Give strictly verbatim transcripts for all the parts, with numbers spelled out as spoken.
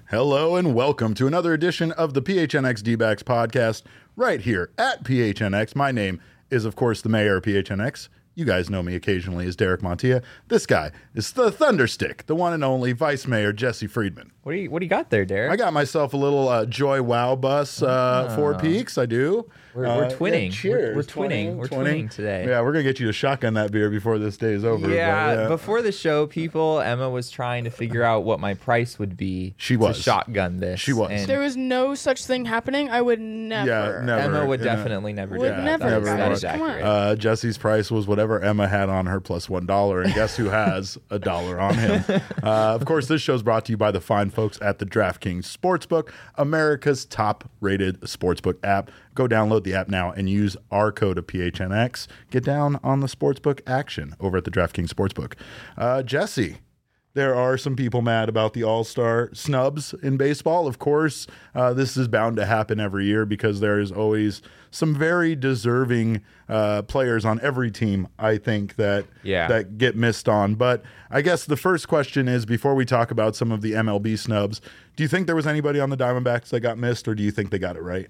Hello and welcome to another edition of the P H N X D-Backs podcast right here at P H N X. My name is, of course, the mayor of P H N X. You guys know me occasionally as Derek Montilla. This guy is the Thunderstick, the one and only Vice Mayor Jesse Friedman. What do you What do you got there, Derek? I got myself a little uh, Joy Wow bus, uh, oh. Four Peaks. I do. We're, we're uh, twinning. Yeah, cheers. We're, we're twinning. We're twinning today. Yeah, we're gonna get you to shotgun that beer before this day is over. Yeah, but, yeah. Before the show, people, Emma was trying to figure out what my price would be. She was to shotgun this. She was. There was no such thing happening. I would never. Yeah, never. Emma would yeah. definitely never Would do that. never, That is- that guys. is Come on. accurate. Uh, Jesse's price was whatever Emma had on her plus one dollar, and guess who has a dollar on him? Uh, of course, this show is brought to you by the fine folks at the DraftKings Sportsbook, America's top-rated sportsbook app. Go download the app now and use our code of P H N X. Get down on the sportsbook action over at the DraftKings Sportsbook. Uh, Jesse. There are some people mad about the All-Star snubs in baseball. Of course, uh, this is bound to happen every year because there is always some very deserving uh, players on every team, I think, that Yeah. that get missed on. But I guess the first question is, before we talk about some of the M L B snubs, do you think there was anybody on the Diamondbacks that got missed, or do you think they got it right?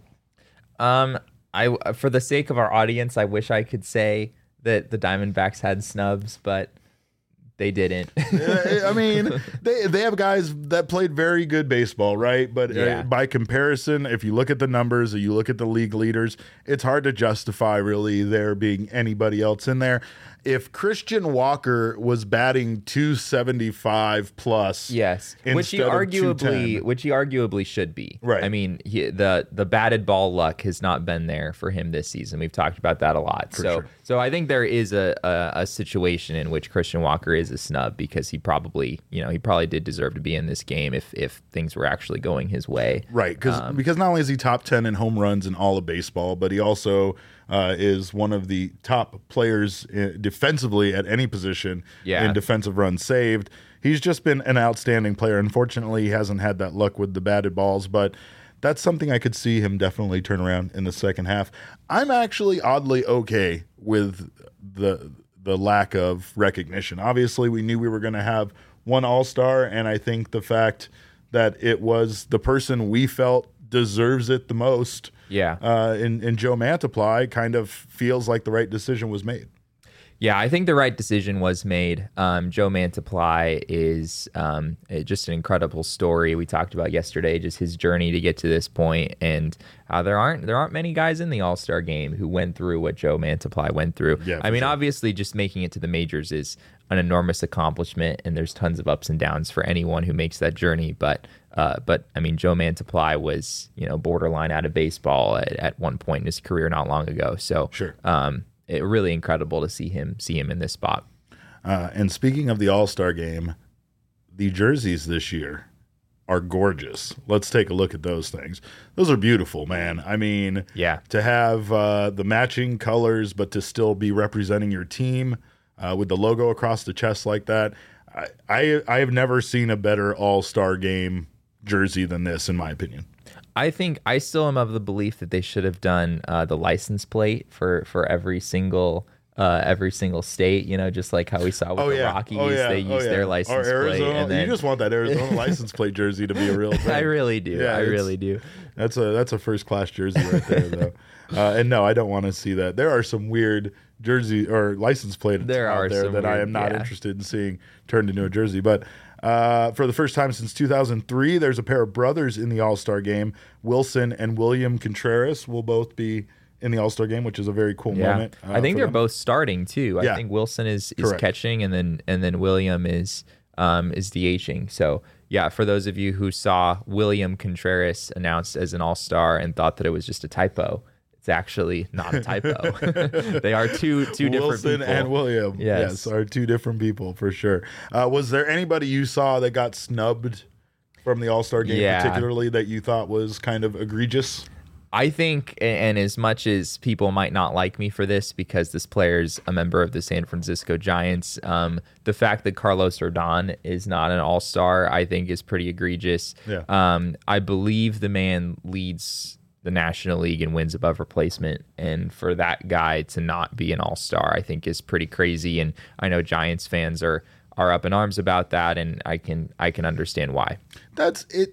Um, I for the sake of our audience, I wish I could say that the Diamondbacks had snubs, but they didn't. I mean, they they have guys that played very good baseball, right? But Yeah. uh, by comparison, if you look at the numbers, or you look at the league leaders, it's hard to justify really there being anybody else in there. If Christian Walker was batting two seventy-five plus, Yes, which he instead of arguably, two ten. which he arguably should be. Right. I mean, he, the the batted ball luck has not been there for him this season. We've talked about that a lot. For so, sure. so I think there is a, a a situation in which Christian Walker is a snub because he probably, you know, he probably did deserve to be in this game if if things were actually going his way. Right, because Um, because not only is he top ten in home runs in all of baseball, but he also uh, is one of the top players uh, defensively at any position Yeah. in defensive runs saved. He's just been an outstanding player. Unfortunately, he hasn't had that luck with the batted balls, but that's something I could see him definitely turn around in the second half. I'm actually oddly okay with the the lack of recognition. Obviously, we knew we were going to have one All-Star, and I think the fact that it was the person we felt deserves it the most, Yeah. uh, in, in Joe Mantiply, kind of feels like the right decision was made. Yeah, I think the right decision was made. Um, Joe Mantiply is um, eh, just an incredible story. We talked about yesterday just his journey to get to this point, and uh, there aren't there aren't many guys in the All-Star game who went through what Joe Mantiply went through. Yeah, I for mean, sure. obviously, just making it to the majors is an enormous accomplishment, and there's tons of ups and downs for anyone who makes that journey. But uh, but I mean, Joe Mantiply was, you know, borderline out of baseball at, at one point in his career not long ago. So Sure. Um, it really incredible to see him see him in this spot. Uh, and speaking of the All-Star game, the jerseys this year are gorgeous. Let's take a look at those things. Those are beautiful, man. I mean, Yeah. to have uh, the matching colors, but to still be representing your team uh, with the logo across the chest like that. I, I I have never seen a better All-Star game jersey than this, in my opinion. I think I still am of the belief that they should have done uh, the license plate for for every single uh, every single state. You know, just like how we saw with the Rockies, they used their license or Arizona. plate. And then, You just want that Arizona license plate jersey to be a real thing. I really do. Yeah, I it's- really do. That's a that's a first class jersey right there, though. Uh, and no, I don't want to see that. There are some weird jersey or license plates There out are there some that I weird- am not yeah. interested in seeing turned into a jersey. But uh, for the first time since two thousand three, there's a pair of brothers in the All-Star game. Wilson and William Contreras will both be in the All-Star game, which is a very cool Yeah, moment. uh, I think for they're them. both starting too. Yeah. I think Wilson is is Correct. catching, and then and then William is um, is DHing. So yeah, for those of you who saw William Contreras announced as an All-Star and thought that it was just a typo, it's actually not a typo. They are two two different Wilson people. and William, Yes. yes, are two different people for sure. Uh, was there anybody you saw that got snubbed from the All-Star game, Yeah. particularly that you thought was kind of egregious? I think, and as much as people might not like me for this because this player's a member of the San Francisco Giants, um, the fact that Carlos Rodon is not an all-star, I think, is pretty egregious. Yeah. Um, I believe the man leads the National League and wins above replacement, and for that guy to not be an all-star, I think, is pretty crazy. And I know Giants fans are are up in arms about that, and I can I can understand why. That's it.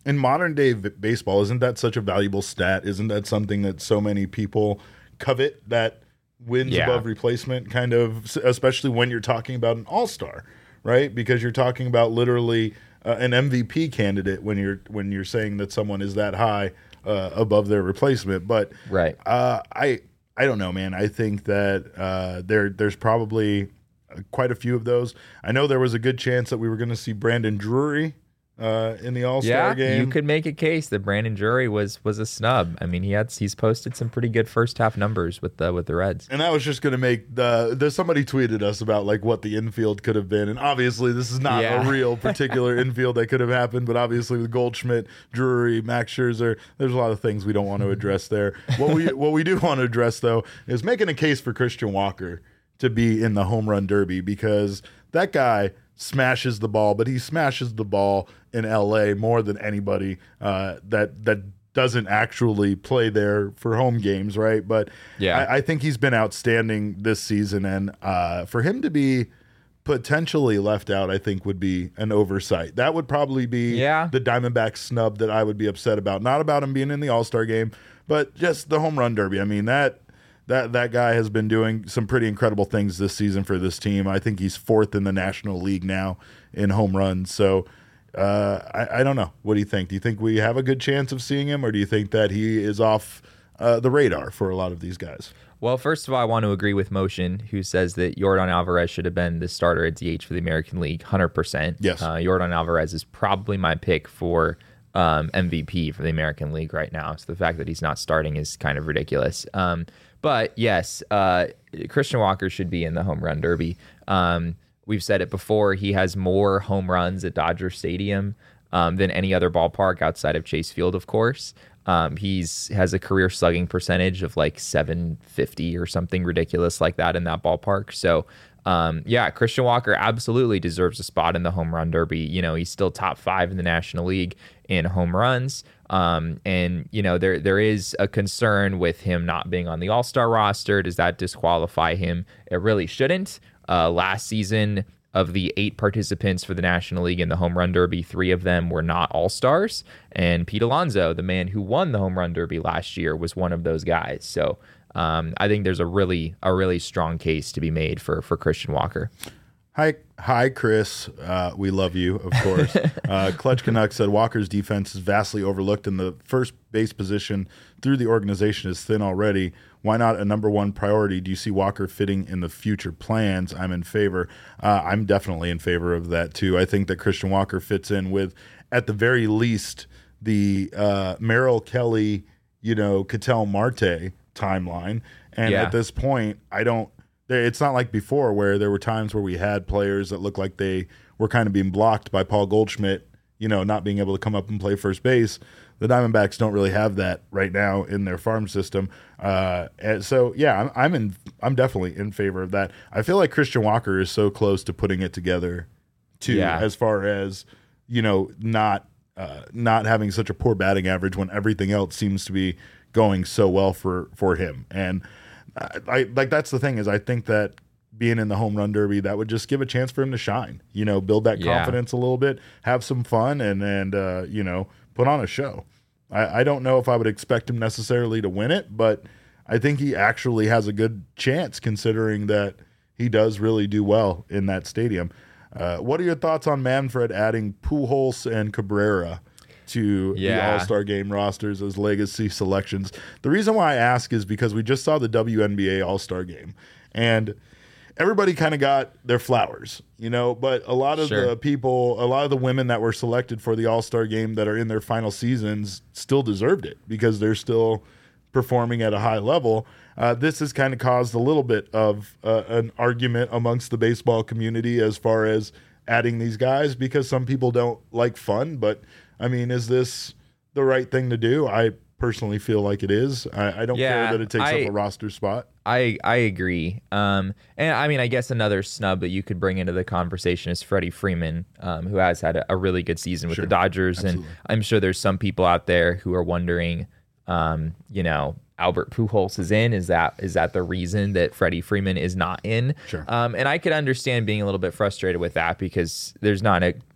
in modern day v- baseball, isn't that such a valuable stat? Isn't that something that so many people covet, that wins Yeah. above replacement kind of, especially when you're talking about an all-star, right? Because you're talking about literally uh, an M V P candidate when you're when you're saying that someone is that high uh, above their replacement. But Right. uh, I I don't know, man. I think that uh, there there's probably quite a few of those. I know there was a good chance that we were going to see Brandon Drury uh, in the All-Star Yeah, game. you could make a case that Brandon Drury was was a snub. I mean, he had he's posted some pretty good first half numbers with the with the Reds. And that was just going to make the. There's somebody tweeted us about like what the infield could have been, and obviously this is not Yeah. a real particular infield that could have happened. But obviously with Goldschmidt, Drury, Max Scherzer, there's a lot of things we don't want to address there. What we what we do want to address though is making a case for Christian Walker to be in the home run derby, because that guy smashes the ball, but he smashes the ball in L A more than anybody uh, that that doesn't actually play there for home games, right? But Yeah. I, I think he's been outstanding this season, and uh, for him to be potentially left out, I think would be an oversight. That would probably be Yeah. the Diamondback snub that I would be upset about. Not about him being in the All-Star game, but just the home run derby. I mean, that that that guy has been doing some pretty incredible things this season for this team. I think he's fourth in the National League now in home runs. So uh, I, I don't know. What do you think? Do you think we have a good chance of seeing him, or do you think that he is off uh, the radar for a lot of these guys? Well, first of all, I want to agree with Motion, who says that Yordan Alvarez should have been the starter at D H for the American League, one hundred percent. Yes. Uh, Yordan Alvarez is probably my pick for um, M V P for the American League right now. So the fact that he's not starting is kind of ridiculous. Um, but yes, uh, Christian Walker should be in the home run derby. Um, we've said it before. He has more home runs at Dodger Stadium um, than any other ballpark outside of Chase Field, of course. Um, he's has a career slugging percentage of like seven fifty or something ridiculous like that in that ballpark. So, um, yeah, Christian Walker absolutely deserves a spot in the home run derby. You know, he's still top five in the National League in home runs. Um, and, you know, there there is a concern with him not being on the All-Star roster. Does that disqualify him? It really shouldn't. Uh, last season, of the eight participants for the National League in the home run derby, three of them were not all-stars. And Pete Alonso, the man who won the home run derby last year, was one of those guys. So um, I think there's a really a really strong case to be made for for Christian Walker. Hi, hi, Chris. Uh, we love you, of course. uh, Clutch Canuck said Walker's defense is vastly overlooked, and the first base position through the organization is thin already. Why not a number one priority? Do you see Walker fitting in the future plans? I'm in favor. Uh, I'm definitely in favor of that, too. I think that Christian Walker fits in with, at the very least, the uh, Merrill Kelly, you know, Ketel Marte timeline. And Yeah. at this point, I don't, it's not like before where there were times where we had players that looked like they were kind of being blocked by Paul Goldschmidt, you know, not being able to come up and play first base. The Diamondbacks don't really have that right now in their farm system. Uh, and so, yeah, I'm, I'm in. I'm definitely in favor of that. I feel like Christian Walker is so close to putting it together, too, Yeah. as far as, you know, not uh, not having such a poor batting average when everything else seems to be going so well for for him. And I, I like that's the thing is I think that being in the home run derby, that would just give a chance for him to shine, you know, build that Yeah. confidence a little bit, have some fun, and and uh, you know, put on a show. I, I don't know if I would expect him necessarily to win it, but I think he actually has a good chance considering that he does really do well in that stadium. Uh, what are your thoughts on Manfred adding Pujols and Cabrera to the Yeah. All-Star game rosters as legacy selections? The reason why I ask is because we just saw the W N B A All-Star game, and everybody kind of got their flowers, you know, but a lot of Sure. the people, a lot of the women that were selected for the All-Star game that are in their final seasons still deserved it because they're still performing at a high level. Uh, this has kind of caused a little bit of uh, an argument amongst the baseball community as far as adding these guys because some people don't like fun. But, I mean, is this the right thing to do? I personally feel like it is. I, I don't Yeah, care that it takes I- up a roster spot. I I agree. Um, and I mean, I guess another snub that you could bring into the conversation is Freddie Freeman, um, who has had a, a really good season with Sure. the Dodgers. Absolutely. And I'm sure there's some people out there who are wondering, um, you know, Albert Pujols is in. Is that is that the reason that Freddie Freeman is not in? Sure. Um, and I could understand being a little bit frustrated with that because there's not a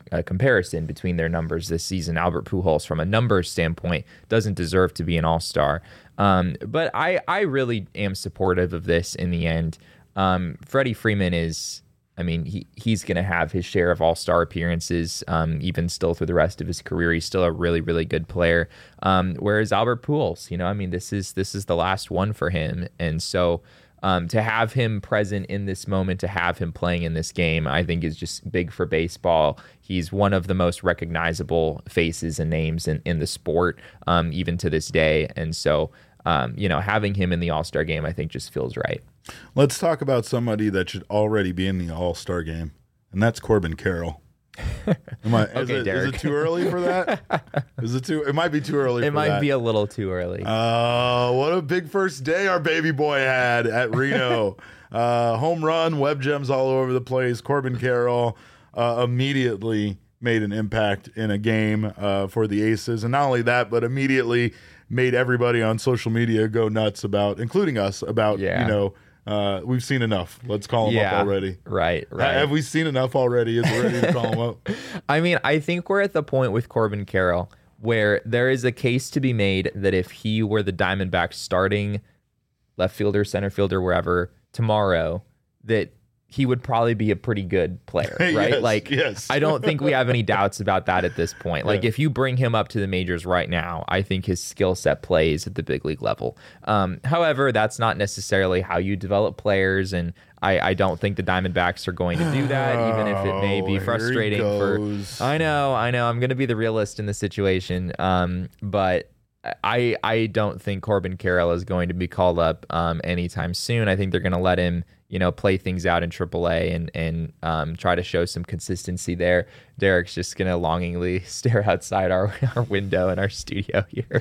a comparison between their numbers this season. Albert Pujols, from a numbers standpoint, doesn't deserve to be an all-star. Um, but I, I really am supportive of this in the end. Um, Freddie Freeman is, I mean, he, he's going to have his share of all-star appearances, um, even still through the rest of his career. He's still a really, really good player. Um, whereas Albert Pujols, you know, I mean, this is this is the last one for him. And so um, to have him present in this moment, to have him playing in this game, I think is just big for baseball. He's one of the most recognizable faces and names in, in the sport, um, even to this day. And so, um, you know, having him in the All-Star game, I think just feels right. Let's talk about somebody that should already be in the All-Star game, and that's Corbin Carroll. Am I, okay, is, it, Derek. is it too early for that? Is it too? It might be too early. It for might that. be a little too early. Oh, what a big first day our baby boy had at Reno. uh, home run, web gems all over the place. Corbin Carroll uh, immediately made an impact in a game uh, for the Aces, and not only that, but immediately made everybody on social media go nuts about, including us, about Yeah. you know. Uh, we've seen enough. Let's call him yeah, up already. Right, right. Have we seen enough already? Is it ready to call him up? I mean, I think we're at the point with Corbin Carroll where there is a case to be made that if he were the Diamondbacks starting left fielder, center fielder, wherever tomorrow, that he would probably be a pretty good player, right? Yes, like, yes. I don't think we have any doubts about that at this point. Like, Yeah. if you bring him up to the majors right now, I think his skill set plays at the big league level. Um, however, that's not necessarily how you develop players, and I, I don't think the Diamondbacks are going to do that, even if it may Oh, be here he frustrating for. goes. I know, I know. I'm going to be the realist in the situation, um, but I I don't think Corbin Carroll is going to be called up um, anytime soon. I think they're going to let him, you know, play things out in triple A and and um, try to show some consistency there. Derek's just going to longingly stare outside our, our window in our studio here.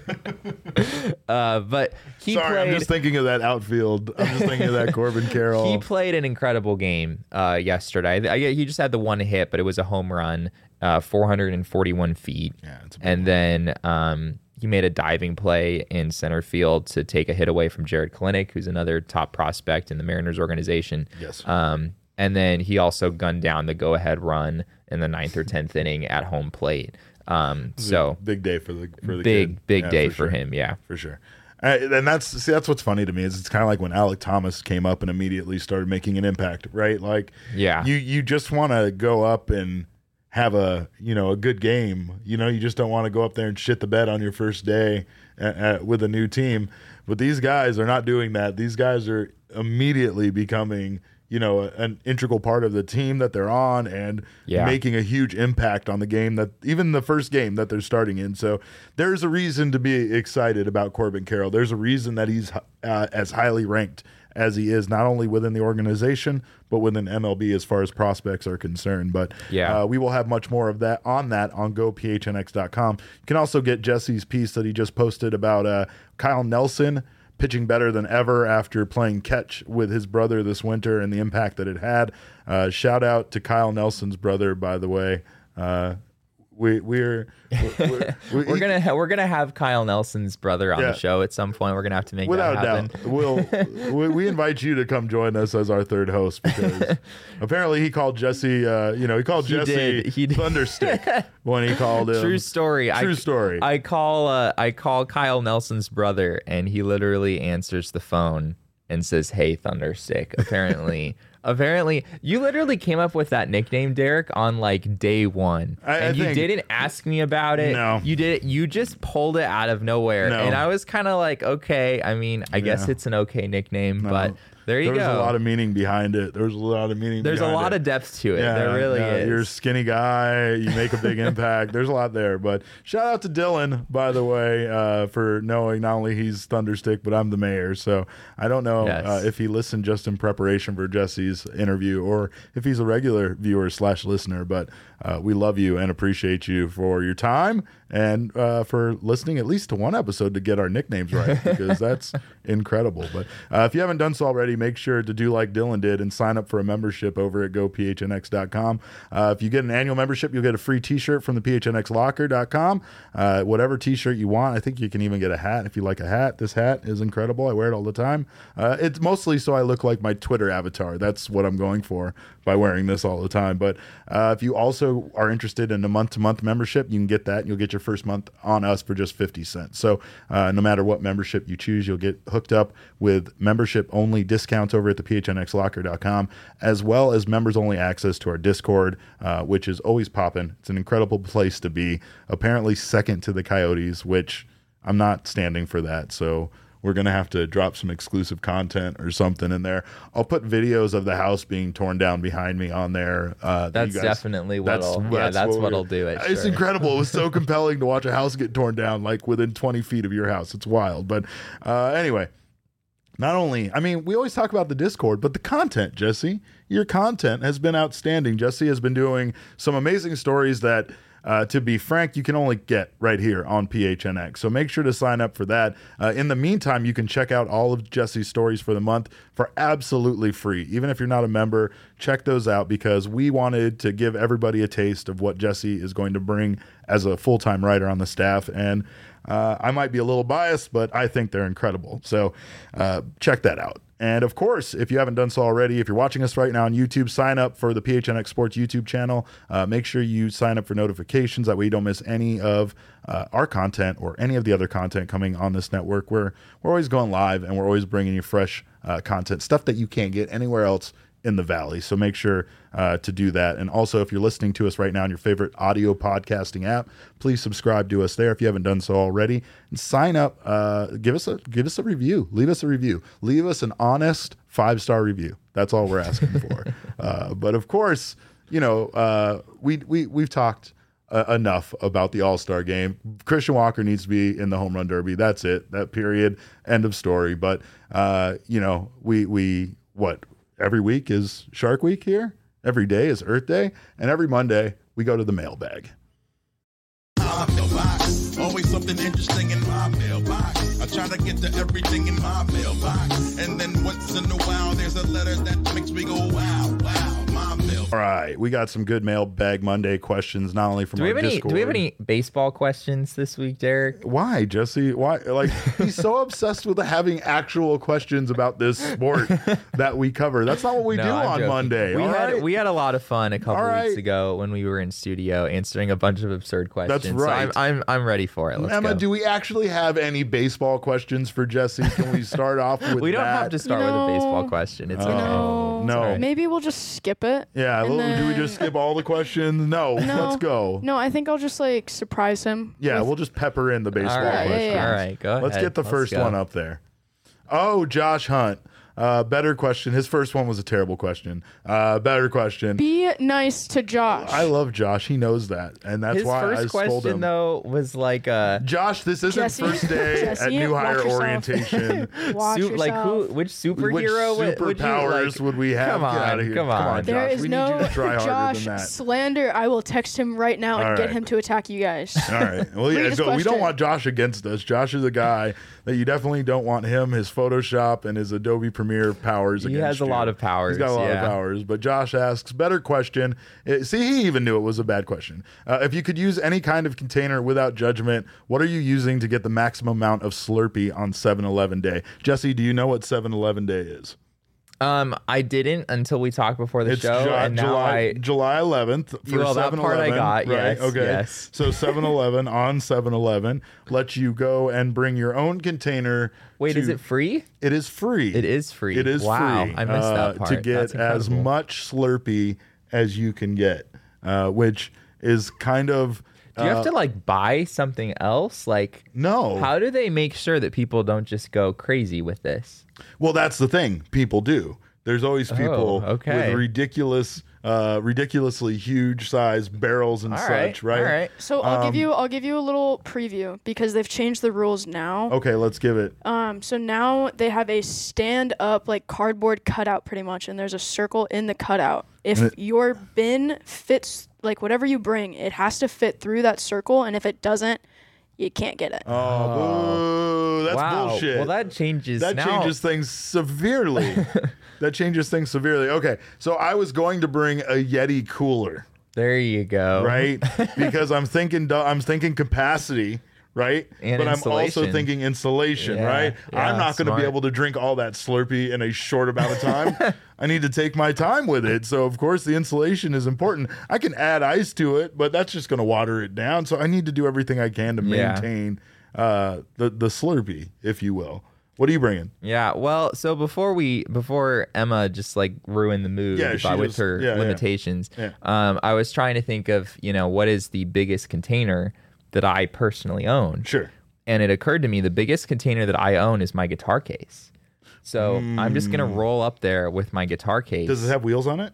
uh, but he Sorry, played, I'm just thinking of that outfield. I'm just thinking of that Corbin Carroll. He played an incredible game uh, yesterday. I, I, he just had the one hit, but it was a home run, uh, four hundred forty-one feet. Yeah, it's a big and one. then um, he made a diving play in center field to take a hit away from Jared Kalenic, who's another top prospect in the Mariners organization. Yes. Um, and then he also gunned down the go-ahead run in the ninth or tenth inning at home plate. Um, so big day for the for the big, kid. big Yeah, day for for sure. him. Yeah. For sure. Uh, and that's see that's what's funny to me is it's kind of like when Alec Thomas came up and immediately started making an impact, right? Like Yeah. you you just want to go up and have a you know a good game. You know, you just don't want to go up there and shit the bed on your first day uh, uh, with a new team. But these guys are not doing that. These guys are immediately becoming you know an integral part of the team that they're on and Yeah. making a huge impact on the game, that even the first game that they're starting in. So there's a reason to be excited about Corbin Carroll. There's a reason that he's uh, as highly ranked as he is, not only within the organization, but within M L B as far as prospects are concerned. But Yeah. uh, we will have much more of that on that on go p h n x dot com. You can also get Jesse's piece that he just posted about uh, Kyle Nelson pitching better than ever after playing catch with his brother this winter and the impact that it had. Uh, shout out to Kyle Nelson's brother, by the way. Uh, we we're we're, we, We're gonna ha- we're gonna have Kyle Nelson's brother on Yeah. the show at some point. We're gonna have to make without that a happen. doubt. We'll we, we invite you to come join us as our third host because apparently he called Jesse. Uh, you know, he called He Jesse did. He did. Thunderstick when he called him. True story. True I, story. I call uh, I call Kyle Nelson's brother, and he literally answers the phone and says, "Hey, Thunderstick." Apparently, apparently, you literally came up with that nickname, Derek, on like day one, I- I and you think- didn't ask me about it. No. you did. You just pulled it out of nowhere, No. and I was kind of like, okay. I mean, I guess Yeah. it's an okay nickname, but there you There's go. a lot of meaning behind it. There's a lot of meaning. There's a behind lot it. of depth to it. there really yeah, is. You're a skinny guy. You make a big impact. There's a lot there. But shout out to Dylan, by the way, uh, for knowing not only he's Thunderstick, but I'm the mayor. So I don't know Yes. uh, if he listened just in preparation for Jesse's interview or if he's a regular viewer slash listener. But uh, we love you and appreciate you for your time and uh, for listening at least to one episode to get our nicknames right because that's incredible. But uh, if you haven't done so already, make sure to do like Dylan did and sign up for a membership over at go p h n x dot com. Uh, if you get an annual membership, you'll get a free t-shirt from the p h n x locker dot com. Uh, whatever t-shirt you want. I think you can even get a hat if you like a hat. This hat is incredible. I wear it all the time. Uh, it's mostly so I look like my Twitter avatar. That's that's what I'm going for by wearing this all the time. But uh, if you also are interested in a month-to-month membership, you can get that. And you'll get your first month on us for just fifty cents. So uh, no matter what membership you choose, you'll get hooked up with membership-only discounts over at the P H N X locker dot com, as well as members-only access to our Discord, uh, which is always popping. It's an incredible place to be. Apparently second to the Coyotes, which I'm not standing for that. So we're going to have to drop some exclusive content or something in there. I'll put videos of the house being torn down behind me on there. Uh, that's guys, definitely what'll, that's, yeah, that's that's what what'll do it. It's sure. incredible. It was so compelling to watch a house get torn down like within twenty feet of your house. It's wild. But uh, anyway, not only, I mean, we always talk about the Discord, but the content, Jesse, your content has been outstanding. Jesse has been doing some amazing stories that, Uh, to be frank, you can only get right here on P H N X. So make sure to sign up for that. Uh, in the meantime, you can check out all of Jesse's stories for the month for absolutely free. Even if you're not a member, check those out because we wanted to give everybody a taste of what Jesse is going to bring as a full-time writer on the staff. And uh, I might be a little biased, but I think they're incredible. So uh, check that out. And of course, if you haven't done so already, if you're watching us right now on YouTube, sign up for the P H N X Sports YouTube channel. Uh, make sure you sign up for notifications. That way you don't miss any of uh, our content or any of the other content coming on this network. We're, we're always going live and we're always bringing you fresh uh, content, stuff that you can't get anywhere else in the Valley. So make sure uh, to do that. And also, if you're listening to us right now on your favorite audio podcasting app, please subscribe to us there if you haven't done so already. And sign up. Uh, give us a give us a review. Leave us a review. Leave us an honest five-star review. That's all we're asking for. uh, but of course, you know, uh, we we we've talked uh, enough about the All-Star game. Christian Walker needs to be in the home run derby. That's it. That period. End of story. But uh, you know, we we what. Every week is Shark Week here. Every day is Earth Day. And every Monday, we go to the mailbag. Always something interesting in my mailbox. I try to get to everything in my mailbox. And then once in a while, there's a letter that makes me go, wow, wow, my mailbox. All right. We got some good mailbag Monday questions, not only from do we our have any, Discord. Do we have any baseball questions this week, Derek? Why, Jesse? Why? Like, he's so obsessed with having actual questions about this sport that we cover. That's not what we No, do I'm on joking. Monday. We all had right? we had a lot of fun a couple All right. weeks ago when we were in studio answering a bunch of absurd questions. That's right. So I'm, I'm I'm ready for it. Let's Emma, go. do we actually have any baseball questions for Jesse? Can we start off with we don't that? have to start You with a baseball know- question. It's Oh, okay. No. no. Sorry. Maybe we'll just skip it. Yeah, and well, do we then- just skip all the questions? No, No. let's go. No, I think I'll just like surprise him. Yeah, with- we'll just pepper in the baseball All right, questions. yeah, yeah. all right, go Let's ahead. get the Let's first go. one up there. Oh, Josh Hunt. Uh, better question. His first one was a terrible question. Uh, better question. Be nice to Josh. I love Josh. He knows that, and that's His why first I scold question him. though was like uh Josh, this isn't Jesse- first day at Jesse, new watch hire yourself. orientation. Watch Su- like who? yourself. Which Which superhero would, would you superpowers like? would we have? Come Get on, out of here. come on. Josh. There is we no need you to try harder Josh than that. slander. I will text him right now and All get right. him to attack you guys. All right. Well, yeah, Read his go. we don't question. want Josh against us. Josh is a guy that you definitely don't want him, his Photoshop, and his Adobe Premiere powers He against has a you. lot of powers, He's got a lot yeah. of powers. But Josh asks, better question. Uh, See, he even knew it was a bad question. Uh, if you could use any kind of container without judgment, what are you using to get the maximum amount of Slurpee on seven eleven Day? Jesse, do you know what seven eleven Day is? Um, I didn't until we talked before the It's show, Ju- and now July, I July eleventh for Well, that seven part I eleven. got, Right? yes, Okay. yes. So seven eleven on seven eleven lets you go and bring your own container. wait. to- Is it free? It is free. It is free. It is Wow, free. I missed uh, that part. To get That's as incredible. much Slurpee as you can get, uh, which is kind of. Do you uh, have to like buy something else? Like, No. how do they make sure that people don't just go crazy with this? Well, that's the thing. People do. There's always people Oh, okay. with ridiculous, uh, ridiculously huge size barrels and All such, right, right? all right. So I'll Um, give you I'll give you a little preview because they've changed the rules now. Okay, let's give it. Um, so now they have a stand up like cardboard cutout pretty much, and there's a circle in the cutout. If And it- your bin fits like whatever you bring, it has to fit through that circle, and if it doesn't, you can't get it. Oh, boo, that's wow. bullshit. Well, that changes. That now. changes things severely. That changes things severely. Okay, so I was going to bring a Yeti cooler, There you go. right? Because I'm thinking, I'm thinking capacity, right? And but I'm also insulation. thinking insulation, Yeah, right? yeah, I'm not going to smart. be able to drink all that Slurpee in a short amount of time. I need to take my time with it. So, of course, the insulation is important. I can add ice to it, but that's just going to water it down. So I need to do everything I can to Yeah. maintain uh, the, the Slurpee, if you will. What are you bringing? Yeah, well, so before we before Emma just like ruined the mood Yeah, she by, with just- her yeah, yeah. limitations, Yeah. um, I was trying to think of, you know, what is the biggest container that I personally own? Sure. And it occurred to me the biggest container that I own is my guitar case. So I'm just gonna roll up there with my guitar case. Hmm. Does it have wheels on it?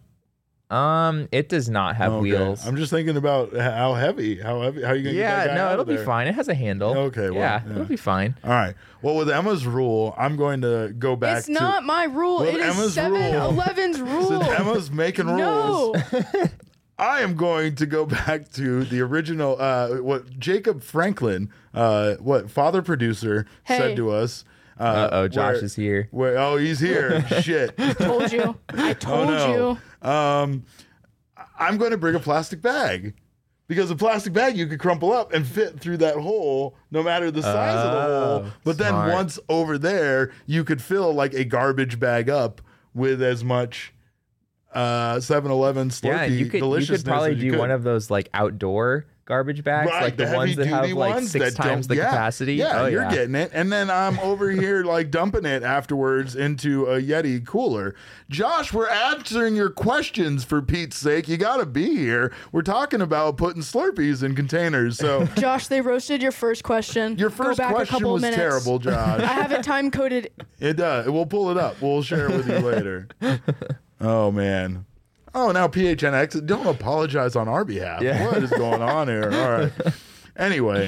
Um, it does not have Okay. wheels. I'm just thinking about how heavy, how heavy, how are you going to get that yeah, guy no, out it'll of be there? fine. It has a handle. Okay, well, yeah, yeah. it'll be fine. All right. Well, with Emma's rule, I'm going to go back It's to not my rule. Well, It is Emma's seven eleven's rule. Since Emma's making rules, No. I am going to go back to the original, uh, what Jacob Franklin, uh, what father producer Hey. said to us. Uh, Uh oh, Josh where- is here. Where, oh, he's here. Shit. Told you. I told Oh, you. no. Um, I'm going to bring a plastic bag because a plastic bag you could crumple up and fit through that hole no matter the size of the Oh, hole. But then smart. once over there, you could fill like a garbage bag up with as much uh seven eleven Slurpee Yeah, and you could you deliciousness could probably as you do could. one of those like outdoor garbage bags, Right, like the, the ones that have heavy-duty like ones six that times don't- the yeah, capacity. Yeah, oh, you're yeah. getting it. And then I'm over here like dumping it afterwards into a Yeti cooler. Josh, we're answering your questions for Pete's sake. You got to be here. We're talking about putting Slurpees in containers. So Josh, they roasted your first question. your Go first back a question couple was minutes. terrible, I Josh. have it time coded. It does. We'll pull it up. We'll share it with you later. Oh, man. Oh, now P H N X. Don't apologize on our behalf. Yeah. What is going on here? All right. Anyway,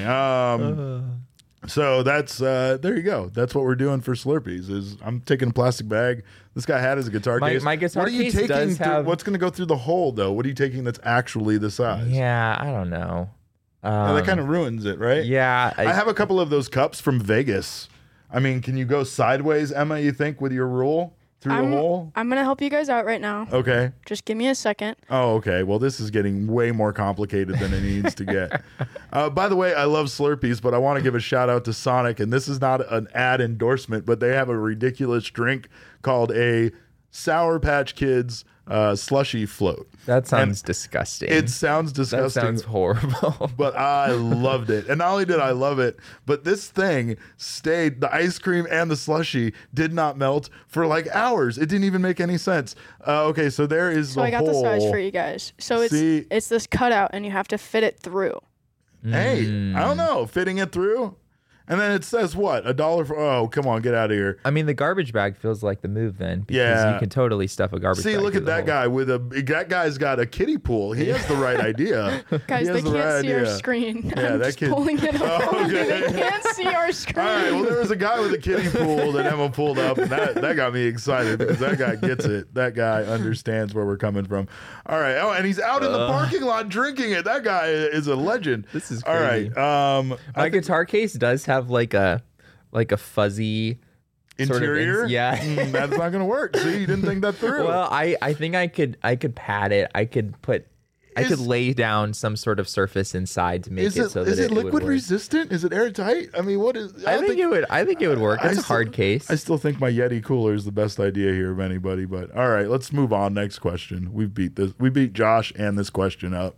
um, so that's uh, there you go. That's what we're doing for Slurpees. Is I'm taking a plastic bag. This guy had his guitar My- case. my guitar what are you case taking does through- have- What's going to go through the hole though? What are you taking that's actually the size? Yeah, I don't know. Yeah, Um, that kind of ruins it, right? yeah. I have a couple of those cups from Vegas. I mean, can you go sideways, Emma? You think with your rule through I'm, the hole? I'm going to help you guys out right now. Okay. Just give me a second. Oh, okay. Well, this is getting way more complicated than it needs to get. Uh, by the way, I love Slurpees, but I want to give a shout out to Sonic, and this is not an ad endorsement, but they have a ridiculous drink called a Sour Patch Kids uh, slushy float. That sounds disgusting. It sounds that disgusting. sounds horrible. But I loved it. And not only did I love it, but this thing stayed, the ice cream and the slushy did not melt for like hours. It didn't even make any sense. Uh, okay, so there is So the I got hole. the size for you guys. So it's See? it's this cutout, and you have to fit it through. Hey, Mm. I don't know, fitting it through. And then it says what? A dollar for, oh, come on, get out of here. I mean, the garbage bag feels like the move then, because Yeah. you can totally stuff a garbage See, bag. look through at the that hole. guy with a, that guy's got a kiddie pool. He has the right idea. Guys, He they has the can't right see our idea. screen. Yeah, I'm that just kid- pulling it up. Oh, for you. okay. They can't see our screen. All right. Well, there was a guy with a kiddie pool that Emma pulled up, and that, that got me excited because that guy gets it. That guy understands where we're coming from. All right. Oh, and he's out in the parking lot drinking it. That guy is a legend. This is all right. crazy. Um, My I think guitar case does have like a like a fuzzy sort of interior. ins- yeah. Mm, that's not going to work. See, you didn't think that through. Well, I, I think I could I could pad it. I could put I Is- could lay down some sort of surface inside to make is it, it, so that is it it, would liquid work. resistant? Is it airtight? I mean, what is? I don't think, it would. I think it would work. I It's a still- hard case. I still think my Yeti cooler is the best idea here of anybody. But all right, let's move on. Next question. We beat this. We beat Josh and this question up.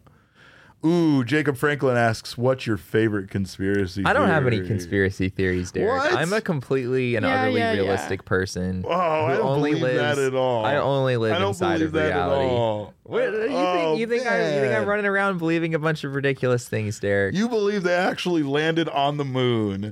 Ooh, Jacob Franklin asks, "What's your favorite conspiracy?" I don't have any theory?" conspiracy theories, Derek. What? I'm a completely and Yeah, utterly yeah, yeah. realistic person. Oh, I who don't only believe lives, that at all. I only live I don't inside believe of that reality. at all. What, you Oh, think? You think, I, you think I'm man. running around believing a bunch of ridiculous things, Derek? You believe they actually landed on the moon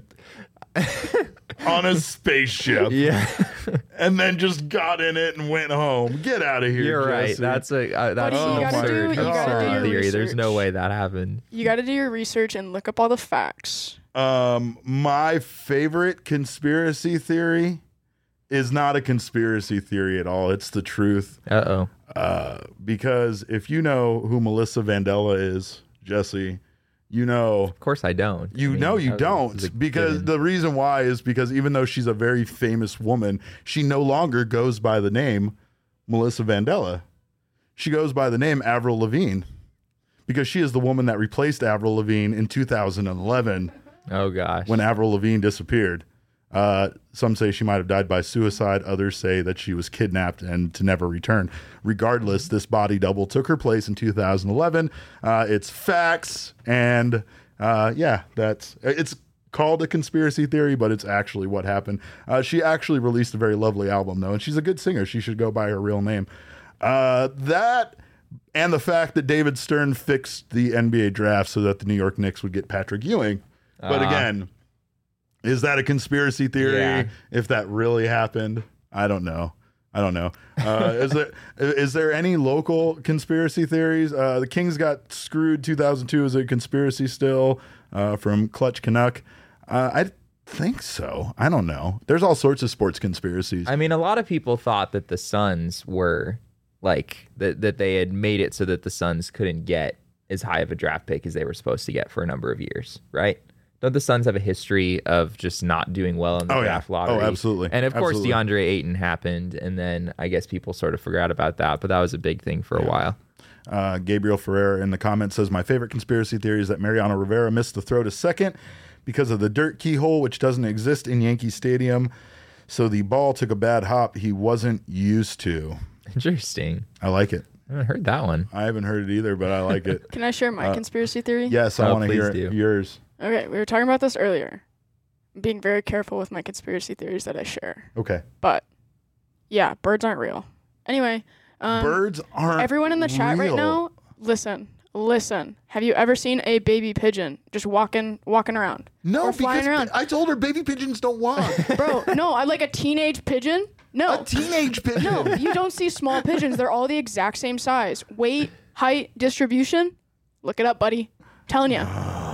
on a spaceship yeah, and then just got in it and went home? Get out of here. you're right. Jesse. That's a uh, that's Buddy, an you gotta absurd, do- you gotta absurd do your theory. There's no research. way that happened. You got to do your research and look up all the facts. Um, my favorite conspiracy theory is not a conspiracy theory at all. It's the truth. Uh oh. Uh, because if you know who Melissa Vandella is, Jesse, you know, Of course I don't. I you mean, know, you that was- this is a don't. Because given. the reason why is because even though she's a very famous woman, she no longer goes by the name Melissa Vandella. She goes by the name Avril Lavigne because she is the woman that replaced Avril Lavigne in two thousand eleven Oh gosh. when Avril Lavigne disappeared. Uh, some say she might have died by suicide. Others say that she was kidnapped and to never return. Regardless, this body double took her place in two thousand eleven. Uh, it's facts, and uh, yeah, that's it's called a conspiracy theory, but it's actually what happened. Uh, she actually released a very lovely album, though, and she's a good singer. She should go by her real name. Uh, that and the fact that David Stern fixed the N B A draft so that the New York Knicks would get Patrick Ewing. But Uh. again, is that a conspiracy theory? Yeah. If that really happened, I don't know. I don't know. Uh, is there is there any local conspiracy theories? Uh, the Kings got screwed. two thousand two is a conspiracy still uh, from Clutch Canuck. Uh, I think so. I don't know. There's all sorts of sports conspiracies. I mean, a lot of people thought that the Suns were like that that they had made it so that the Suns couldn't get as high of a draft pick as they were supposed to get for a number of years, right? Don't the Suns have a history of just not doing well in the Oh, yeah. draft lottery? Oh, absolutely. And of course, Absolutely. DeAndre Ayton happened, and then I guess people sort of forgot about that, but that was a big thing for a while. Uh, Gabriel Ferreira in the comments says, my favorite conspiracy theory is that Mariano Rivera missed the throw to second because of the dirt keyhole, which doesn't exist in Yankee Stadium. So the ball took a bad hop he wasn't used to. Interesting. I like it. I haven't heard that one. I haven't heard it either, but I like it. Can I share my conspiracy theory? Yes, I Oh, want to hear please it. do. yours. Okay, we were talking about this earlier. I'm being very careful with my conspiracy theories that I share. Okay. But yeah, birds aren't real. Anyway, um, Birds aren't everyone in the chat right real. now, listen, listen. Have you ever seen a baby pigeon just walking walking around? No, or flying because around? I told her baby pigeons don't walk. Bro, no, I like a teenage pigeon. No. A teenage pigeon. No, you don't see small pigeons. They're all the exact same size. Weight, height, distribution. Look it up, buddy. telling you.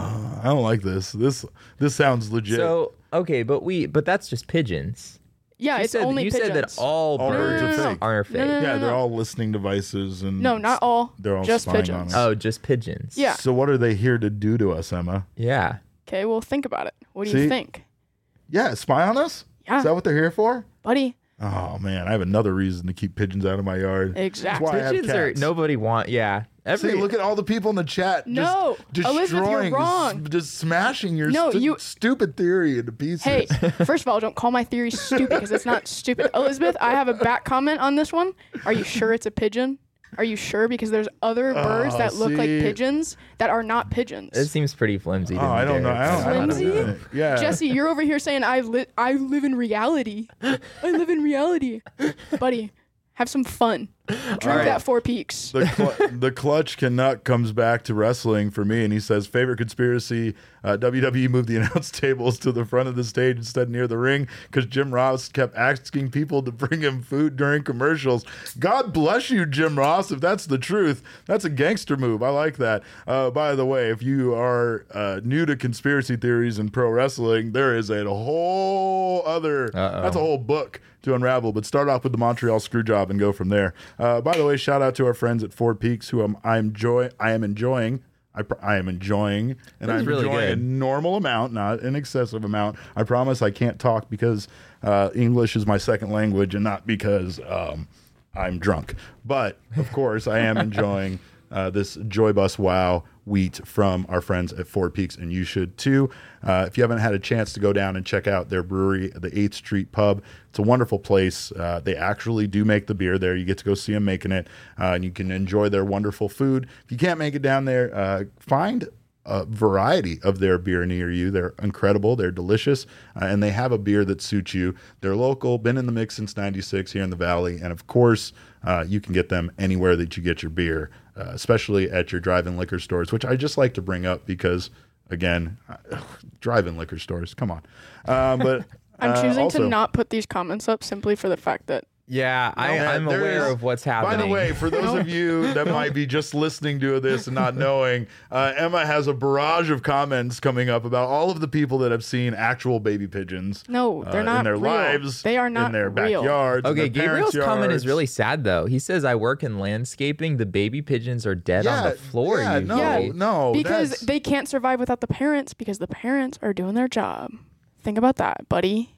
I don't like this. This this sounds legit. So okay, but we but that's just pigeons. Yeah, You it's said, only you pigeons. said that all All birds birds are fake. are fake. No, no, no. yeah, they're all listening devices and No, not all. They're all just spying on pigeons. us. Oh, just pigeons. Yeah. So what are they here to do to us, Emma? Yeah. Okay, well, think about it. What do See? you think? Yeah, spy on us? Yeah. Is that what they're here for? Buddy, Oh man, I have another reason to keep pigeons out of my yard. exactly. why I have Pigeons are cats. nobody want. Yeah. Every See, look at all the people in the chat. No, just Elizabeth, you're destroying, wrong. Just, just smashing your No, stu- you- stupid theory into pieces. Hey, first of all, don't call my theory stupid because it's not stupid. Elizabeth, I have a back comment on this one. Are you sure it's a pigeon? Are you sure? Because there's other birds Oh, that look like see. pigeons that are not pigeons. it seems pretty flimsy. To Oh, me, I don't know. Derek. I don't, I don't Flimsy? know. Yeah, Jesse, you're over here saying I li- I live in reality. I live in reality. Buddy, have some fun. Drink right. that Four Peaks. the cl- the clutch Canuck comes back to wrestling for me, and he says favorite conspiracy: uh, W W E moved the announce tables to the front of the stage instead near the ring because Jim Ross kept asking people to bring him food during commercials. God bless you, Jim Ross. If that's the truth, that's a gangster move. I like that. Uh, by the way, if you are uh, new to conspiracy theories in pro wrestling, there is a whole other. Uh-oh. That's a whole book to unravel. But start off with the Montreal Screwjob and go from there. Uh, by the way, shout out to our friends at Four Peaks, who I'm I enjoy I am enjoying. I, pr- I am enjoying, and That was I'm really enjoying a good. normal amount, not an excessive amount. I promise I can't talk because uh, English is my second language, and not because um, I'm drunk. But of course, I am enjoying uh, this Joy Bus Wow wheat from our friends at Four Peaks, and you should too. Uh, if you haven't had a chance to go down and check out their brewery, the eighth Street Pub, it's a wonderful place. Uh, they actually do make the beer there. You get to go see them making it, uh, and you can enjoy their wonderful food. If you can't make it down there, uh, find a variety of their beer near you. They're incredible. They're delicious, uh, and they have a beer that suits you. They're local, been in the mix since ninety-six here in the Valley, and of course, uh, you can get them anywhere that you get your beer, uh, especially at your drive-in liquor stores, which I just like to bring up because, again, ugh, drive-in liquor stores, come on. Uh, but I'm uh, choosing also- to not put these comments up simply for the fact that Yeah, I, Yeah, I'm there aware is- of what's By happening. the way, for those of you that might be just listening to this and not knowing, uh, Emma has a barrage of comments coming up about all of the people that have seen actual baby pigeons. no, they're uh, not in their real. lives. They are not in their real. backyards. in Okay, their parents' Gabriel's comment is yards. really sad though. He says, "I work in landscaping. The baby pigeons are dead on Yeah, the floor. yeah, no, usually." Yeah, no, because that's- they can't survive without the parents because the parents are doing their job. Think about that, buddy.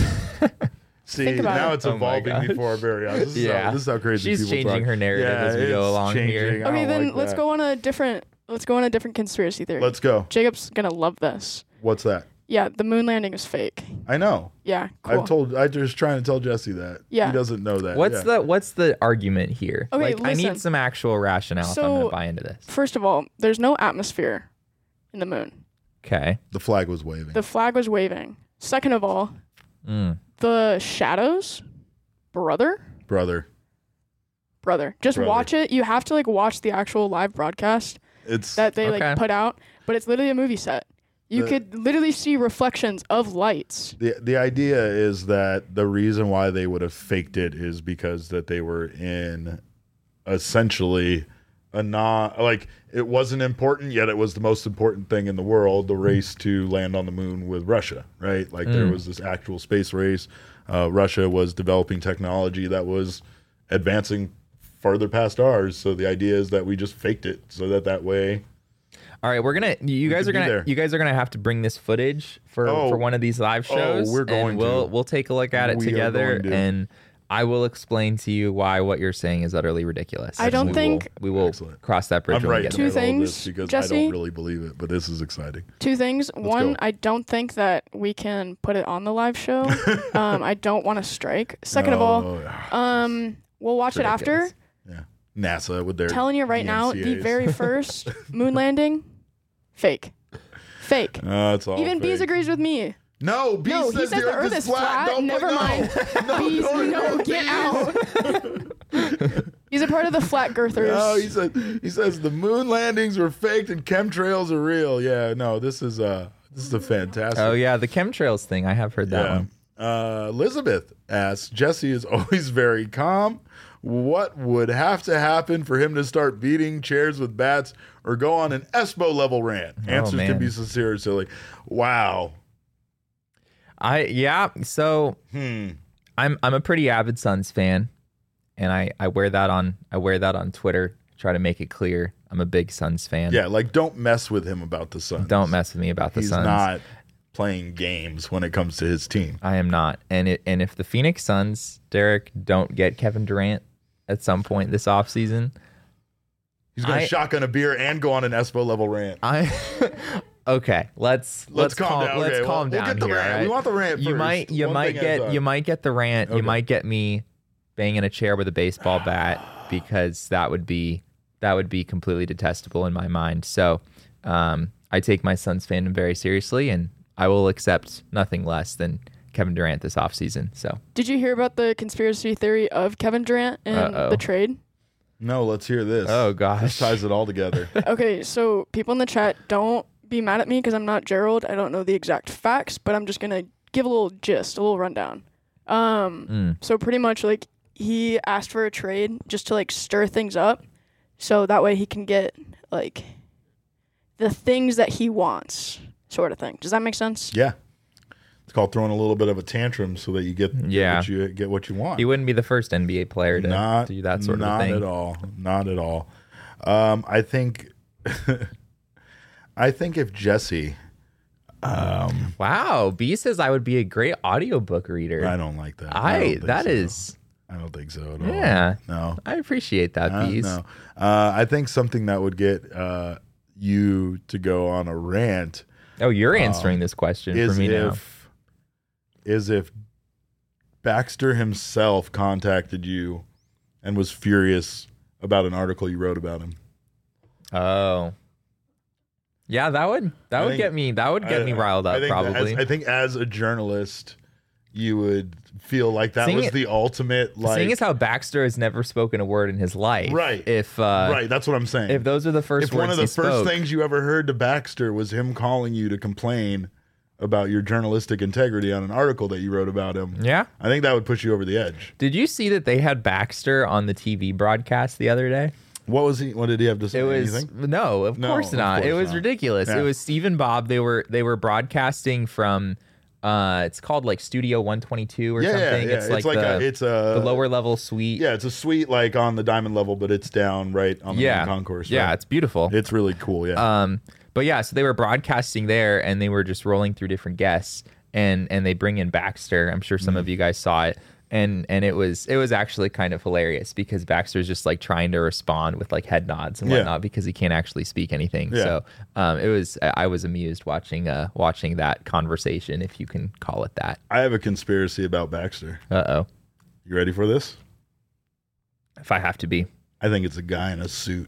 See, Think about now it. it's Oh my evolving gosh. before our very eyes. This is, Yeah. how, this is how crazy She's people changing talk. her narrative yeah, as we go it's along here. changing. I Okay, don't then like let's that. go on a different. Let's go on a different conspiracy theory. Let's go. Jacob's gonna love this. What's that? Yeah, the moon landing is fake. I know. Yeah, cool. I've told. I just trying to tell Jesse that. Yeah. He doesn't know that. What's yeah. the what's the argument here? Okay, like, I listen. need some actual rationale if I'm So- gonna buy into this. First of all, there's no atmosphere in the moon. Okay. The flag was waving. The flag was waving. Second of all, Mm. the shadows, brother, Brother. brother. Just Brother. watch it. You have to like watch the actual live broadcast It's that they Okay. like put out, but it's literally a movie set. You The- could literally see reflections of lights. the the idea is that the reason why they would have faked it is because that they were in essentially a non like it wasn't important yet it was the most important thing in the world, the race to land on the moon with Russia, right? Like there was this actual space race. Uh, Russia was developing technology that was advancing farther past ours. So the idea is that we just faked it so that that way. All right, we're gonna. You guys could are be gonna. there. You guys are gonna have to bring this footage for Oh. for one of these live Oh, shows. we're going and we'll to. we'll take a look at it We are together, going to. and I will explain to you why what you're saying is utterly ridiculous. I don't We think- will, we will Excellent. cross that bridge I'm when right we get in Two the there. middle of this things, because I Jesse. don't really believe it, but this is exciting. Two things. One, go. I don't think that we can put it on the live show. um, I don't want to strike. Second of all, Oh, um, we'll watch it after. ridiculous. yeah. NASA with their Telling you right E now, N C the As. very first moon landing, fake, fake. Uh, it's all Even Bees fake. agrees with me. No, Bees No, says, he says the Earth is flat. Don't Never no. mind. No, Bees, don't no, go, get Bees. out. He's a part of the flat girthers. No, he said he says the moon landings were faked and chemtrails are real. Yeah, no, this is uh this is a fantastic. Oh yeah, the chemtrails thing. I have heard that yeah. one. Uh, Elizabeth asks, Jesse is always very calm. What would have to happen for him to start beating chairs with bats or go on an Espo level rant? Answers man. can be sincere or silly. Wow. I yeah. So Hmm. I'm I'm a pretty avid Suns fan, and I I wear that on I wear that on Twitter. Try to make it clear I'm a big Suns fan. Yeah, like don't mess with him about the Suns. Don't mess with me about the He's Suns. not playing games when it comes to his team. I am not. And it and if the Phoenix Suns, Derek, don't get Kevin Durant at some point this offseason, He's going to I- shotgun a beer and go on an Espo level rant. I okay. Let's Let's calm calm, down. Let's Okay, calm we'll down get the here. rant. all right? We want the rant You first. might you One might thing at a get time. you might get the rant. Okay. You might get me banging a chair with a baseball bat because that would be that would be completely detestable in my mind. So um, I take my Suns fandom very seriously, and I will accept nothing less than Kevin Durant this offseason. So Did you hear about the conspiracy theory of Kevin Durant and Uh-oh. the trade? No, let's hear this. oh This gosh, ties it all together. Okay, so people in the chat, don't be mad at me because I'm not Gerald. I don't know the exact facts, but I'm just gonna give a little gist, a little rundown. Um, Mm. so pretty much like he asked for a trade just to like stir things up, so that way he can get like the things that he wants, sort of thing. Does that make sense? Yeah. It's called throwing a little bit of a tantrum so that you get, get Yeah. what you get what you want. he wouldn't be the first N B A player to not do that sort not of thing. at all. Not at all. Um, I think I think if Jesse um Wow, B says I would be a great audiobook reader. I don't like that. I, don't think that so. is I don't think so at all. yeah. No. I appreciate that, Uh, Bees. no. Uh, I think something that would get uh, you to go on a rant Oh, you're answering this question is for me now. if is if Baxter himself contacted you and was furious about an article you wrote about him. Oh, yeah, that would that I would think- get me that would get I- me riled I up think that probably. As, I think as a journalist, you would feel like that Seeing was it- the ultimate. Like, Seeing as how Baxter has never spoken a word in his life, Right. If uh, right, that's what I'm saying. if those are the first if words one of the he first spoke, things you ever heard to Baxter was him calling you to complain about your journalistic integrity on an article that you wrote about him, yeah. I think that would push you over the edge. Did you see that they had Baxter on the T V broadcast the other day? What was he? What did he have to say? It was Anything? no, of No, course of not. it course was not. ridiculous. Yeah. It was Steve and Bob. They were they were broadcasting from uh, it's called like Studio one twenty-two or Yeah, yeah, something. yeah. It's like, a, the, it's a the lower level suite. Yeah, it's a suite like on the diamond level, but it's down right on the yeah, main concourse. yeah. right? It's beautiful. It's really cool. Yeah. Um, but yeah, so they were broadcasting there, and they were just rolling through different guests, and and they bring in Baxter. I'm sure some Mm-hmm. of you guys saw it, and and it was it was actually kind of hilarious because Baxter's just like trying to respond with like head nods and Yeah. whatnot because he can't actually speak anything. Yeah. So um, it was I was amused watching uh watching that conversation, if you can call it that. I have a conspiracy about Baxter. Uh oh, You ready for this? if I have to be. I think it's a guy in a suit.